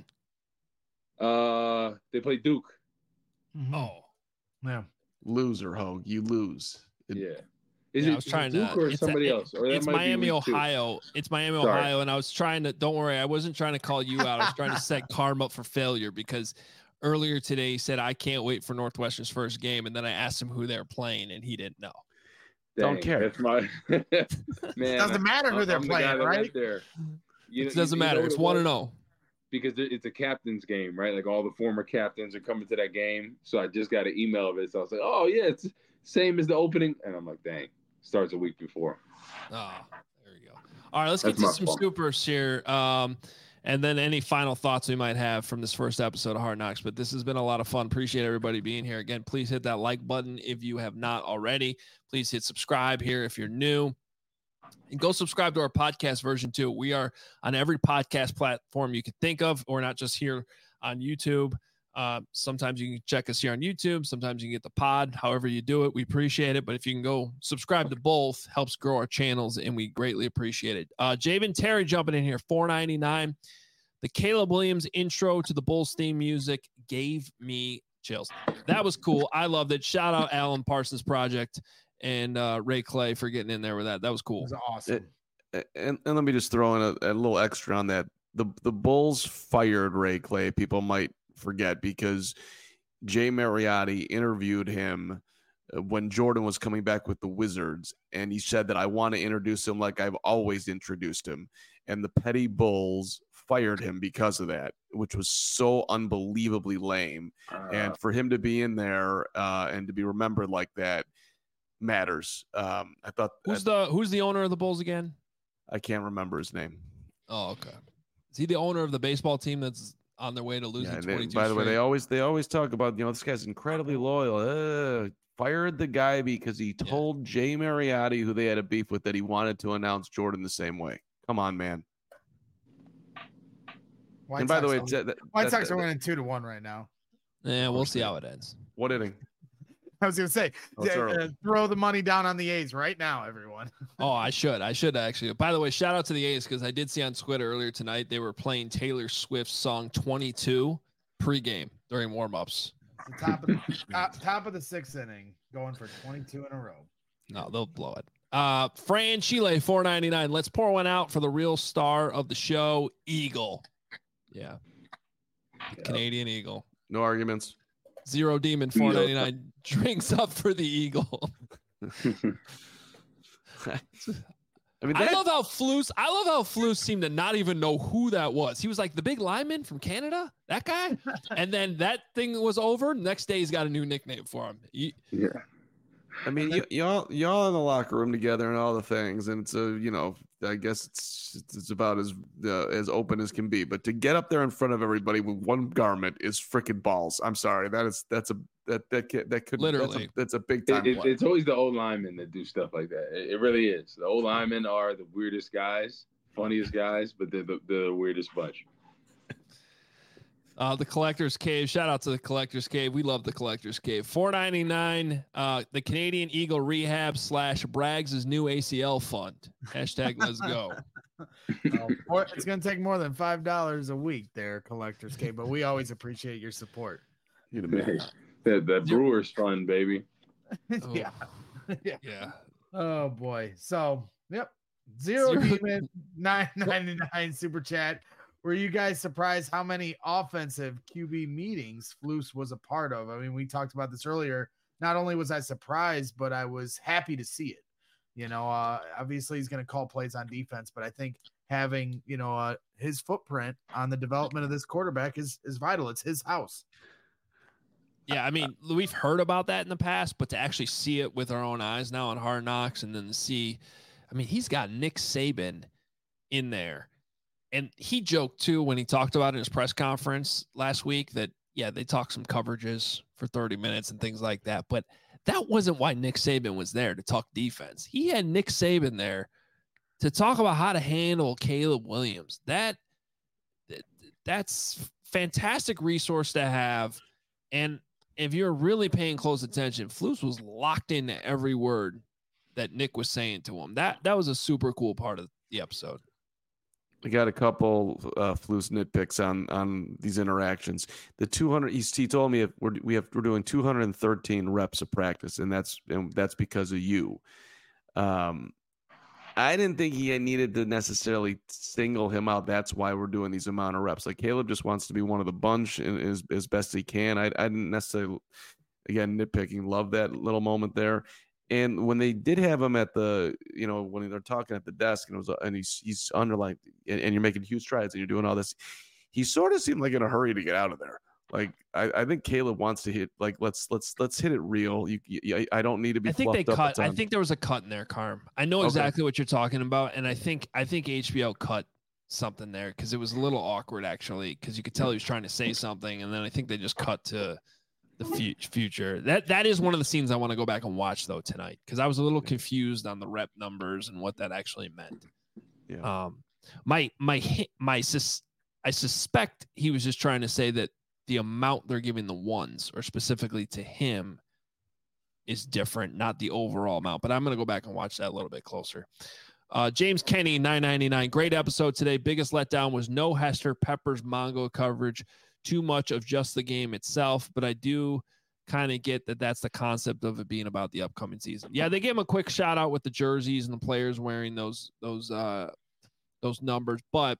S2: They play Duke.
S3: Mm-hmm. Oh. Yeah,
S4: loser, Hogue. You lose.
S2: Yeah.
S1: I was trying
S2: Duke
S1: to.
S2: Or somebody else? Or
S1: it's Miami, Ohio. It's Miami, Ohio, and I was trying to. Don't worry, I wasn't trying to call you out. I was trying to set Carm up for failure, because earlier today he said I can't wait for Northwestern's first game, and then I asked him who they're playing, and he didn't know.
S2: Dang,
S4: don't care.
S2: That's my man.
S3: Doesn't matter who they're playing, right?
S1: It doesn't matter. It's 1-0.
S2: Because it's a captain's game, right? Like all the former captains are coming to that game. So I just got an email of it. So I was like, oh, yeah, it's same as the opening. And I'm like, dang, starts a week before.
S1: Oh, there we go. All right, let's get to some supers here. And and then any final thoughts we might have from this first episode of Hard Knocks. But this has been a lot of fun. Appreciate everybody being here. Again, please hit that like button if you have not already. Please hit subscribe here if you're new. And go subscribe to our podcast version too. We are on every podcast platform you could think of. We're not just here on YouTube. Sometimes you can check us here on YouTube. Sometimes you can get the pod. However you do it, we appreciate it. But if you can go subscribe to both, helps grow our channels, and we greatly appreciate it. Javen Terry jumping in here, $4.99. The Caleb Williams intro to the Bulls theme music gave me chills. That was cool. I loved it. Shout out Alan Parsons Project and Ray Clay for getting in there with that. That was cool.
S3: It was awesome.
S4: And let me just throw in a little extra on that. The Bulls fired Ray Clay. People might forget because Jay Mariotti interviewed him when Jordan was coming back with the Wizards, and he said that I want to introduce him like I've always introduced him, and the petty Bulls fired him because of that, which was so unbelievably lame. And for him to be in there and to be remembered like that matters. I thought
S1: who's the owner of the Bulls again?
S4: I can't remember his name.
S1: Oh, okay. Is he the owner of the baseball team that's on their way to losing 22
S4: by the way,
S1: straight?
S4: they always talk about, this guy's incredibly loyal. Fired the guy because he told Jay Mariotti, who they had a beef with, that he wanted to announce Jordan the same way. Come on, man.
S3: White Sox are winning 2-1 right now.
S1: Yeah, we'll see how it ends.
S4: What inning?
S3: I was going to say, throw the money down on the A's right now, everyone.
S1: Oh, I should actually. By the way, shout out to the A's because I did see on Twitter earlier tonight they were playing Taylor Swift's song 22 pregame during warmups.
S3: Top of the sixth inning, going for 22 in a row.
S1: No, they'll blow it. Fran Chile, $4.99. Let's pour one out for the real star of the show, Eagle. Yeah. Canadian Eagle.
S4: No arguments.
S1: Zero Demon, $4.99. Drinks up for the Eagle. I love how Flus seemed to not even know who that was. He was like the big lineman from Canada, that guy. And then that thing was over. Next day, he's got a new nickname for him.
S2: Yeah.
S4: I mean, y'all in the locker room together and all the things, and it's I guess it's about as open as can be. But to get up there in front of everybody with one garment is freaking balls. I'm sorry, that could
S1: literally
S4: that's a big time.
S2: It's always the old linemen that do stuff like that. It really is. The old linemen are the weirdest guys, funniest guys, but they're the weirdest bunch.
S1: The Collector's Cave. Shout out to the Collector's Cave. We love the Collector's Cave. $4.99. The Canadian Eagle Rehab / Braggs' new ACL fund. Hashtag let's go.
S3: It's going to take more than $5 a week there, Collector's Cave, but we always appreciate your support.
S2: The Brewers fund, baby.
S3: Yeah.
S1: Yeah.
S3: Oh, boy. So, yep. Zero Demon, $9.99 super chat. Were you guys surprised how many offensive QB meetings Flus was a part of? I mean, we talked about this earlier. Not only was I surprised, but I was happy to see it. Obviously he's going to call plays on defense, but I think having, his footprint on the development of this quarterback is vital. It's his house.
S1: Yeah, I mean, we've heard about that in the past, but to actually see it with our own eyes now on Hard Knocks and then to see, I mean, he's got Nick Saban in there. And he joked, too, when he talked about it in his press conference last week that, they talked some coverages for 30 minutes and things like that. But that wasn't why Nick Saban was there to talk defense. He had Nick Saban there to talk about how to handle Caleb Williams. That's fantastic resource to have. And if you're really paying close attention, Flus was locked into every word that Nick was saying to him. That was a super cool part of the episode.
S4: We got a couple Flus nitpicks on these interactions. The 200, he told me we're doing 213 reps of practice, and that's because of you. I didn't think he needed to necessarily single him out. That's why we're doing these amount of reps. Like Caleb just wants to be one of the bunch as best he can. I didn't necessarily, again, nitpicking, love that little moment there. And when they did have him at the, when they're talking at the desk and he's under and you're making huge strides and you're doing all this, he sort of seemed like in a hurry to get out of there. Like I think Caleb wants to hit, like let's hit it real. I don't need to be.
S1: I think they cut. I think there was a cut in there, Carm. I know exactly what you're talking about, and I think HBO cut something there because it was a little awkward actually because you could tell he was trying to say something, and then I think they just cut to the future. That is one of the scenes I want to go back and watch though tonight because I was a little confused on the rep numbers and what that actually meant.
S4: Yeah.
S1: I suspect he was just trying to say that the amount they're giving the ones, or specifically to him, is different, not the overall amount. But I'm going to go back and watch that a little bit closer. James Kenny, $9.99. Great episode today. Biggest letdown was no Hester Peppers Mongo coverage. Too much of just the game itself. But I do kind of get that that's the concept of it being about the upcoming season. Yeah, they gave him a quick shout out with the jerseys and the players wearing those numbers. But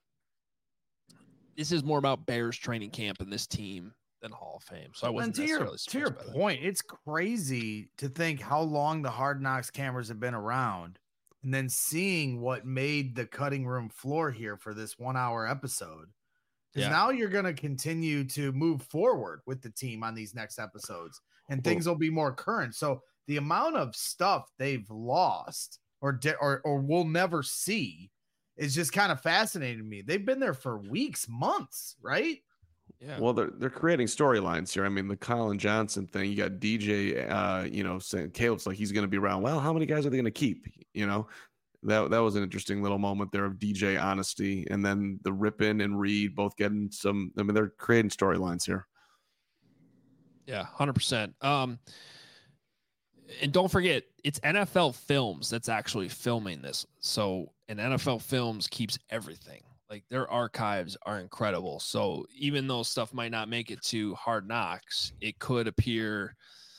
S1: this is more about Bears training camp and this team than Hall of Fame. So I wasn't necessarily
S3: to your point, it's crazy to think how long the Hard Knocks cameras have been around, and then seeing what made the cutting room floor here for this 1 hour episode. Because now you're going to continue to move forward with the team on these next episodes, and things will be more current. So the amount of stuff they've lost or we'll never see is just kind of fascinating to me. They've been there for weeks, months, right?
S4: Yeah. Well, they're creating storylines here. I mean, the Colin Johnson thing, you got DJ, saying Caleb's like he's going to be around. Well, how many guys are they going to keep? That was an interesting little moment there of DJ honesty, and then the Rippin and Reed both getting some. I mean, they're creating storylines here.
S1: Yeah, 100%. And don't forget, it's NFL Films that's actually filming this. So, and NFL Films keeps everything. Like, their archives are incredible. So even though stuff might not make it to Hard Knocks, it could appear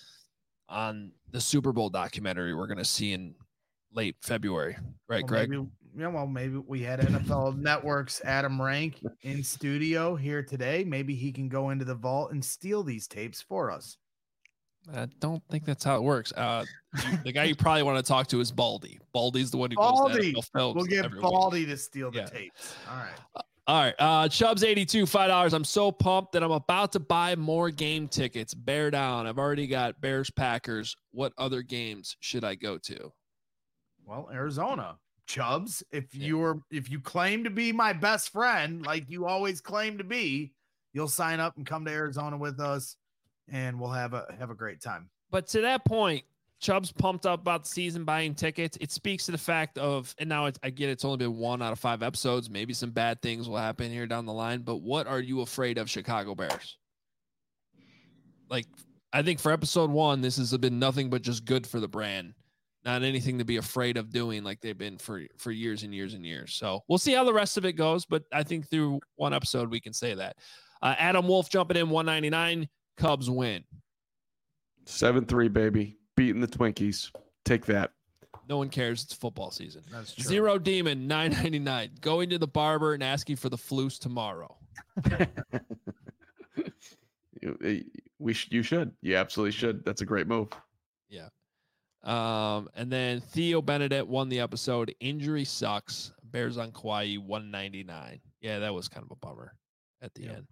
S1: on the Super Bowl documentary we're going to see in late February. Right, Greg?
S3: Maybe we had NFL Network's Adam Rank in studio here today. Maybe he can go into the vault and steal these tapes for us.
S1: I don't think that's how it works. The guy you probably want to talk to is Baldy. Baldy's the one who
S3: Baldy.
S1: goes to NFL Films.
S3: We'll get Baldy to steal the tapes.
S1: All right. Chubbs 82, $5. I'm so pumped that I'm about to buy more game tickets. Bear down. I've already got Bears Packers. What other games should I go to?
S3: Well, Arizona. Chubbs, if you claim to be my best friend, like you always claim to be, you'll sign up and come to Arizona with us, and we'll have a great time.
S1: But to that point, Chubb's pumped up about the season, buying tickets. It speaks to the fact of, and now I get it's only been 1 out of 5 episodes. Maybe some bad things will happen here down the line. But what are you afraid of, Chicago Bears? Like, I think for episode 1, this has been nothing but just good for the brand. Not anything to be afraid of doing like they've been for years and years and years. So we'll see how the rest of it goes. But I think through 1 episode, we can say that. Adam Wolf jumping in, $199. Cubs win.
S4: 7-3, baby. Beating the Twinkies. Take that.
S1: No one cares. It's football season.
S3: That's true.
S1: Zero Demon, $9.99. Going to the barber and asking for the floose tomorrow.
S4: You should. You absolutely should. That's a great move.
S1: Yeah. And then Theo Benedict won the episode. Injury sucks. Bears on Kauai, $199. Yeah, that was kind of a bummer at the end.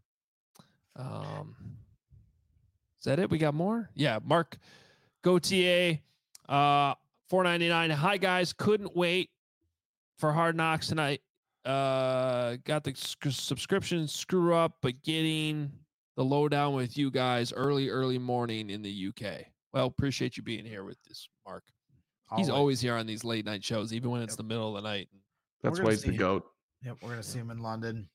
S1: Is that it? We got more? Yeah. Mark Gauthier, $4.99. Hi guys, couldn't wait for Hard Knocks tonight. Got the subscription screw up, but getting the lowdown with you guys early morning in the UK. Well, appreciate you being here with this, Mark. He's always here on these late night shows, even when it's the middle of the night.
S4: That's why he's the GOAT.
S3: Yep, we're gonna see him in London.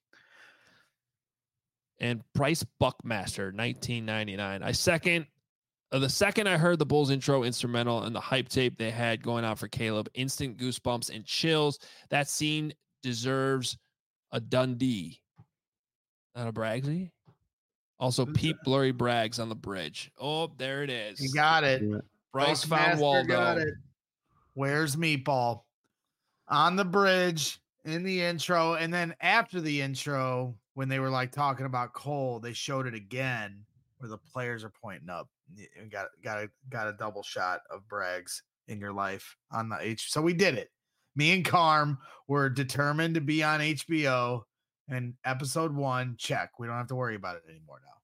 S1: And Bryce Buckmaster, $19.99. The second I heard the Bulls intro instrumental and the hype tape they had going out for Caleb, instant goosebumps and chills. That scene deserves a Dundee, not a Bragsy. Also, Pete Blurry Braggs on the bridge. Oh, there it is.
S3: You got it.
S1: Bryce found Waldo.
S3: Got it. Where's Meatball? On the bridge in the intro, and then after the intro, when they were like talking about Cole, they showed it again where the players are pointing up. You got a double shot of Braggs in your life on the H. So we did it. Me and Carm were determined to be on HBO, and episode 1, check. We don't have to worry about it anymore now.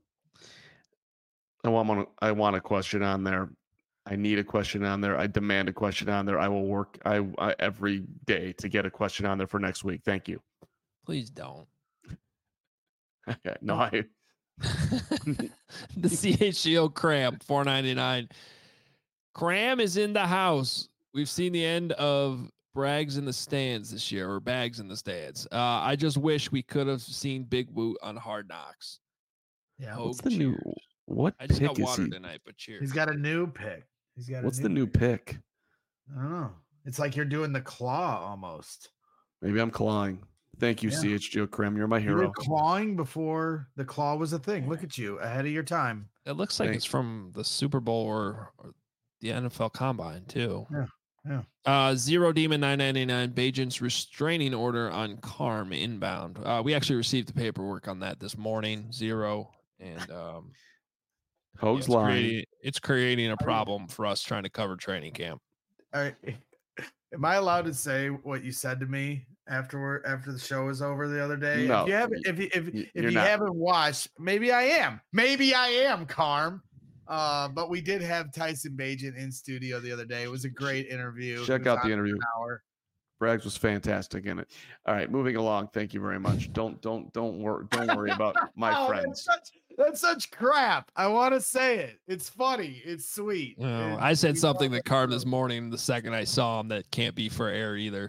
S4: I want a question on there. I need a question on there. I demand a question on there. I will work I every day to get a question on there for next week. Thank you.
S1: Please don't.
S4: Okay. No, I
S1: The CHGO Cram, $4.99. Cram is in the house. We've seen the end of Brags in the stands this year, or Bags in the stands. I just wish we could have seen Big Woot on Hard Knocks.
S3: Yeah.
S4: what's the new
S1: Cheers.
S4: what
S1: I just
S4: pick
S1: got
S4: is
S1: water
S4: he?
S1: tonight, but cheers.
S3: He's got a new pick.
S4: What's the new pick?
S3: I don't know. It's like you're doing the claw almost.
S4: Maybe I'm clawing. Thank you,
S3: Yeah.
S4: CHGO Cram. You're my
S3: You were
S4: hero.
S3: clawing before the claw was a thing. Look at you, ahead of your time.
S1: It looks like it's from the Super Bowl or the NFL Combine too.
S3: Yeah.
S1: Zero Demon 999 Bajent's restraining order on Carm inbound. We actually received the paperwork on that this morning. Zero, and
S4: Hoag's lying.
S1: it's creating a problem for us trying to cover training camp.
S3: All right. Am I allowed to say what you said to me after the show was over the other day?
S4: No,
S3: if you
S4: not.
S3: haven't watched, maybe I am, Carm. But we did have Tyson Bagent in studio the other day. It was a great interview.
S4: Check out the interview.
S3: Hour.
S4: Brags was fantastic in it. All right, moving along. Thank you very much. Don't worry about my friends.
S3: That's such crap. I want to say it. It's funny. It's sweet.
S1: No, I said something that Carm this morning the second I saw him that can't be for air either.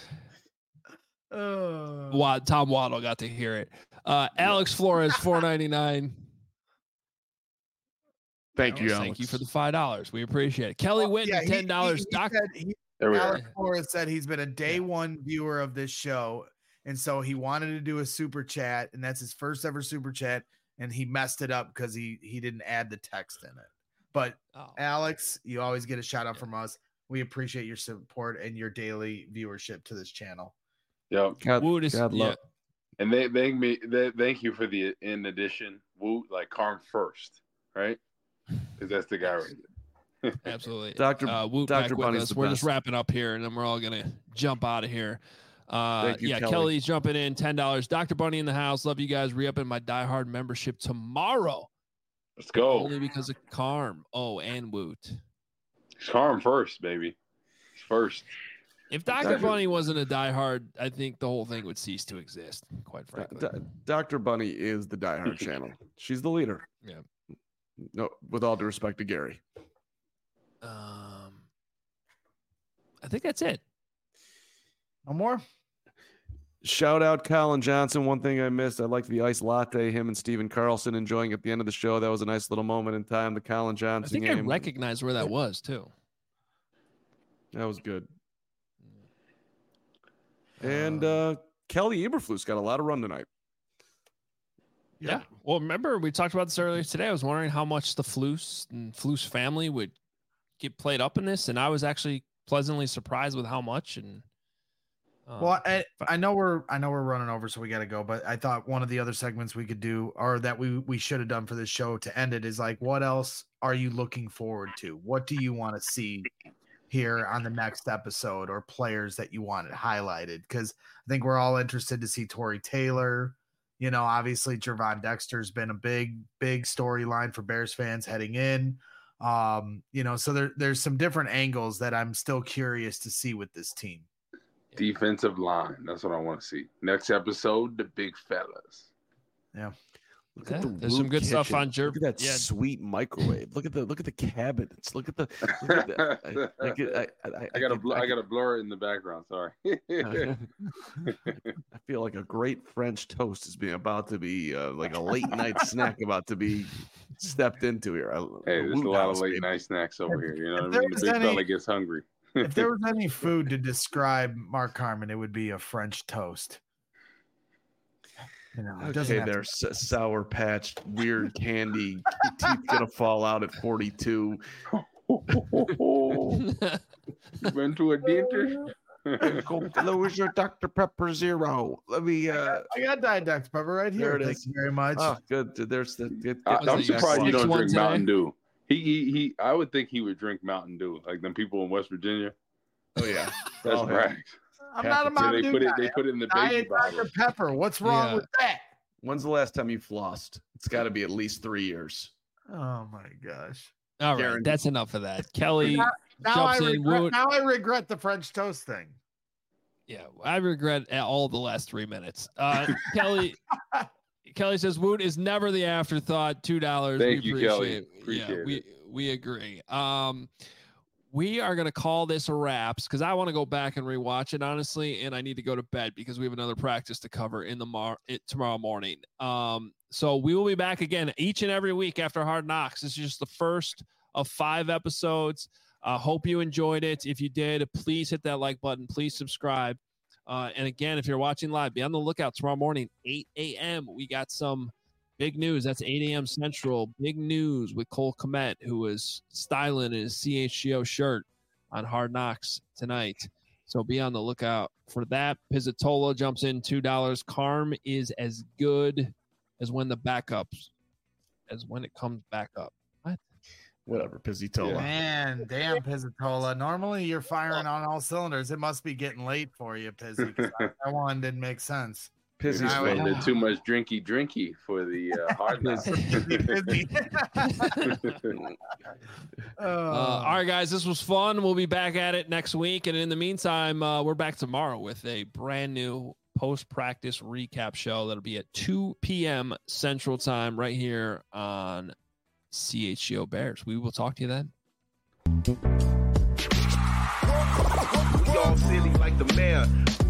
S1: Tom Waddle got to hear it. Alex Flores, $4.99.
S4: Thank you, Alex.
S1: Thank you for the $5. We appreciate it. Kelly Whitten, $10.
S3: Alex Flores said he's been a day one viewer of this show, and so he wanted to do a super chat, and that's his first ever super chat, and he messed it up because he didn't add the text in it. But Alex, you always get a shout out from us. We appreciate your support and your daily viewership to this channel.
S2: Yep.
S4: God love.
S2: And they thank you for the in addition. Woot, like Carm first, right? Because that's the guy right there.
S1: Absolutely.
S4: Dr.
S1: Woot back with
S4: Bunny's
S1: us.
S4: the
S1: We're
S4: best.
S1: just wrapping up here, and then we're all going to jump out of here.
S4: Thank you, Kelly.
S1: Kelly's jumping in, $10. Dr. Bunny in the house. Love you guys. Re-upping my Die Hard membership tomorrow.
S2: Let's go.
S1: Only because of Carm. Oh, and Woot.
S2: Carm first, baby. First.
S1: If Dr. Bunny wasn't a Die Hard, I think the whole thing would cease to exist, quite frankly.
S4: Dr. Bunny is the Die Hard channel. She's the leader.
S1: Yeah.
S4: No, with all due respect to Gary.
S1: I think that's it.
S3: No more?
S4: Shout out Colin Johnson. One thing I missed, I liked the iced latte, him and Steven Carlson enjoying at the end of the show. That was a nice little moment in time. The Colin Johnson
S1: I think
S4: game.
S1: I recognize where that was, too.
S4: That was good. And Kelly Eberflus got a lot of run tonight.
S1: Yeah. Well, remember, we talked about this earlier today. I was wondering how much the Flus and Flus family would get played up in this, and I was actually pleasantly surprised with how much. And
S3: well, I know we're running over, so we got to go. But I thought one of the other segments we could do, or that we should have done for this show to end it, is like, what else are you looking forward to? What do you want to see here on the next episode, or players that you wanted highlighted? Because I think we're all interested to see Tory Taylor. You know, obviously Gervon Dexter's been a big storyline for Bears fans heading in. You know, so there's some different angles that I'm still curious to see with this team.
S2: Defensive line. That's what I want to see. Next episode, the big fellas.
S3: Yeah.
S4: Look at the
S1: there's some good stuff on
S4: Look at that sweet microwave. Look at the cabinets. Look at the.
S2: I gotta blur it in the background. Sorry.
S4: I feel like a great French toast is about to be like a late night snack about to be stepped into here.
S2: Hey, there's a lot of late night snacks over here. You know what I mean? The big fella gets hungry.
S3: If there was any food to describe Mark Carman, it would be a French toast. You know,
S4: okay, there's Sour Patch, weird candy, teeth gonna fall out at 42.
S2: You went to a dentist?
S4: Where's your Dr. Pepper Zero? Let me.
S3: I got Diet Dr. Pepper right here.
S4: There it
S3: Thank
S4: is.
S3: you very much.
S4: Oh, good. There's
S2: I'm surprised you don't drink
S1: today?
S2: Mountain Dew. He. I would think he would drink Mountain Dew, like them people in West Virginia.
S4: Oh yeah,
S2: that's right.
S3: I'm not a Mountain Dew guy.
S2: They put it in the baby
S3: Diet
S2: bottle.
S3: Dr. Pepper. What's wrong with that?
S4: When's the last time you flossed? It's got to be at least 3 years.
S3: Oh my gosh.
S1: All right,
S4: Guaranteed.
S1: that's enough of that. Kelly
S3: Now I
S1: jumps in.
S3: regret the French toast thing.
S1: Yeah, I regret all the last 3 minutes. Kelly says Woot is never the afterthought. $2.
S2: Thank you, Kelly. Appreciate it.
S1: We agree. We are going to call this a wraps because I want to go back and rewatch it, honestly, and I need to go to bed because we have another practice to cover in tomorrow morning. So we will be back again each and every week after Hard Knocks. This is just the first of 5 episodes. Hope you enjoyed it. If you did, please hit that like button. Please subscribe. And again, if you're watching live, be on the lookout tomorrow morning, 8 a.m. We got some big news. That's 8 a.m. Central. Big news with Cole Kmet, who is styling his CHGO shirt on Hard Knocks tonight. So be on the lookout for that. Pizzatola jumps in $2. Carm is as good as when it comes back up. What?
S4: Whatever, Pizzatola.
S3: Man, damn, Pizzatola. Normally you're firing on all cylinders. It must be getting late for you, Pizzy. That one didn't make sense.
S2: Pizzy's did too much drinky for the Hard Knocks.
S1: All right, guys, this was fun. We'll be back at it next week. And in the meantime, we're back tomorrow with a brand new post-practice recap show that'll be at 2 p.m. Central Time right here on CHGO Bears. We will talk to you then.
S5: We all silly like the mayor.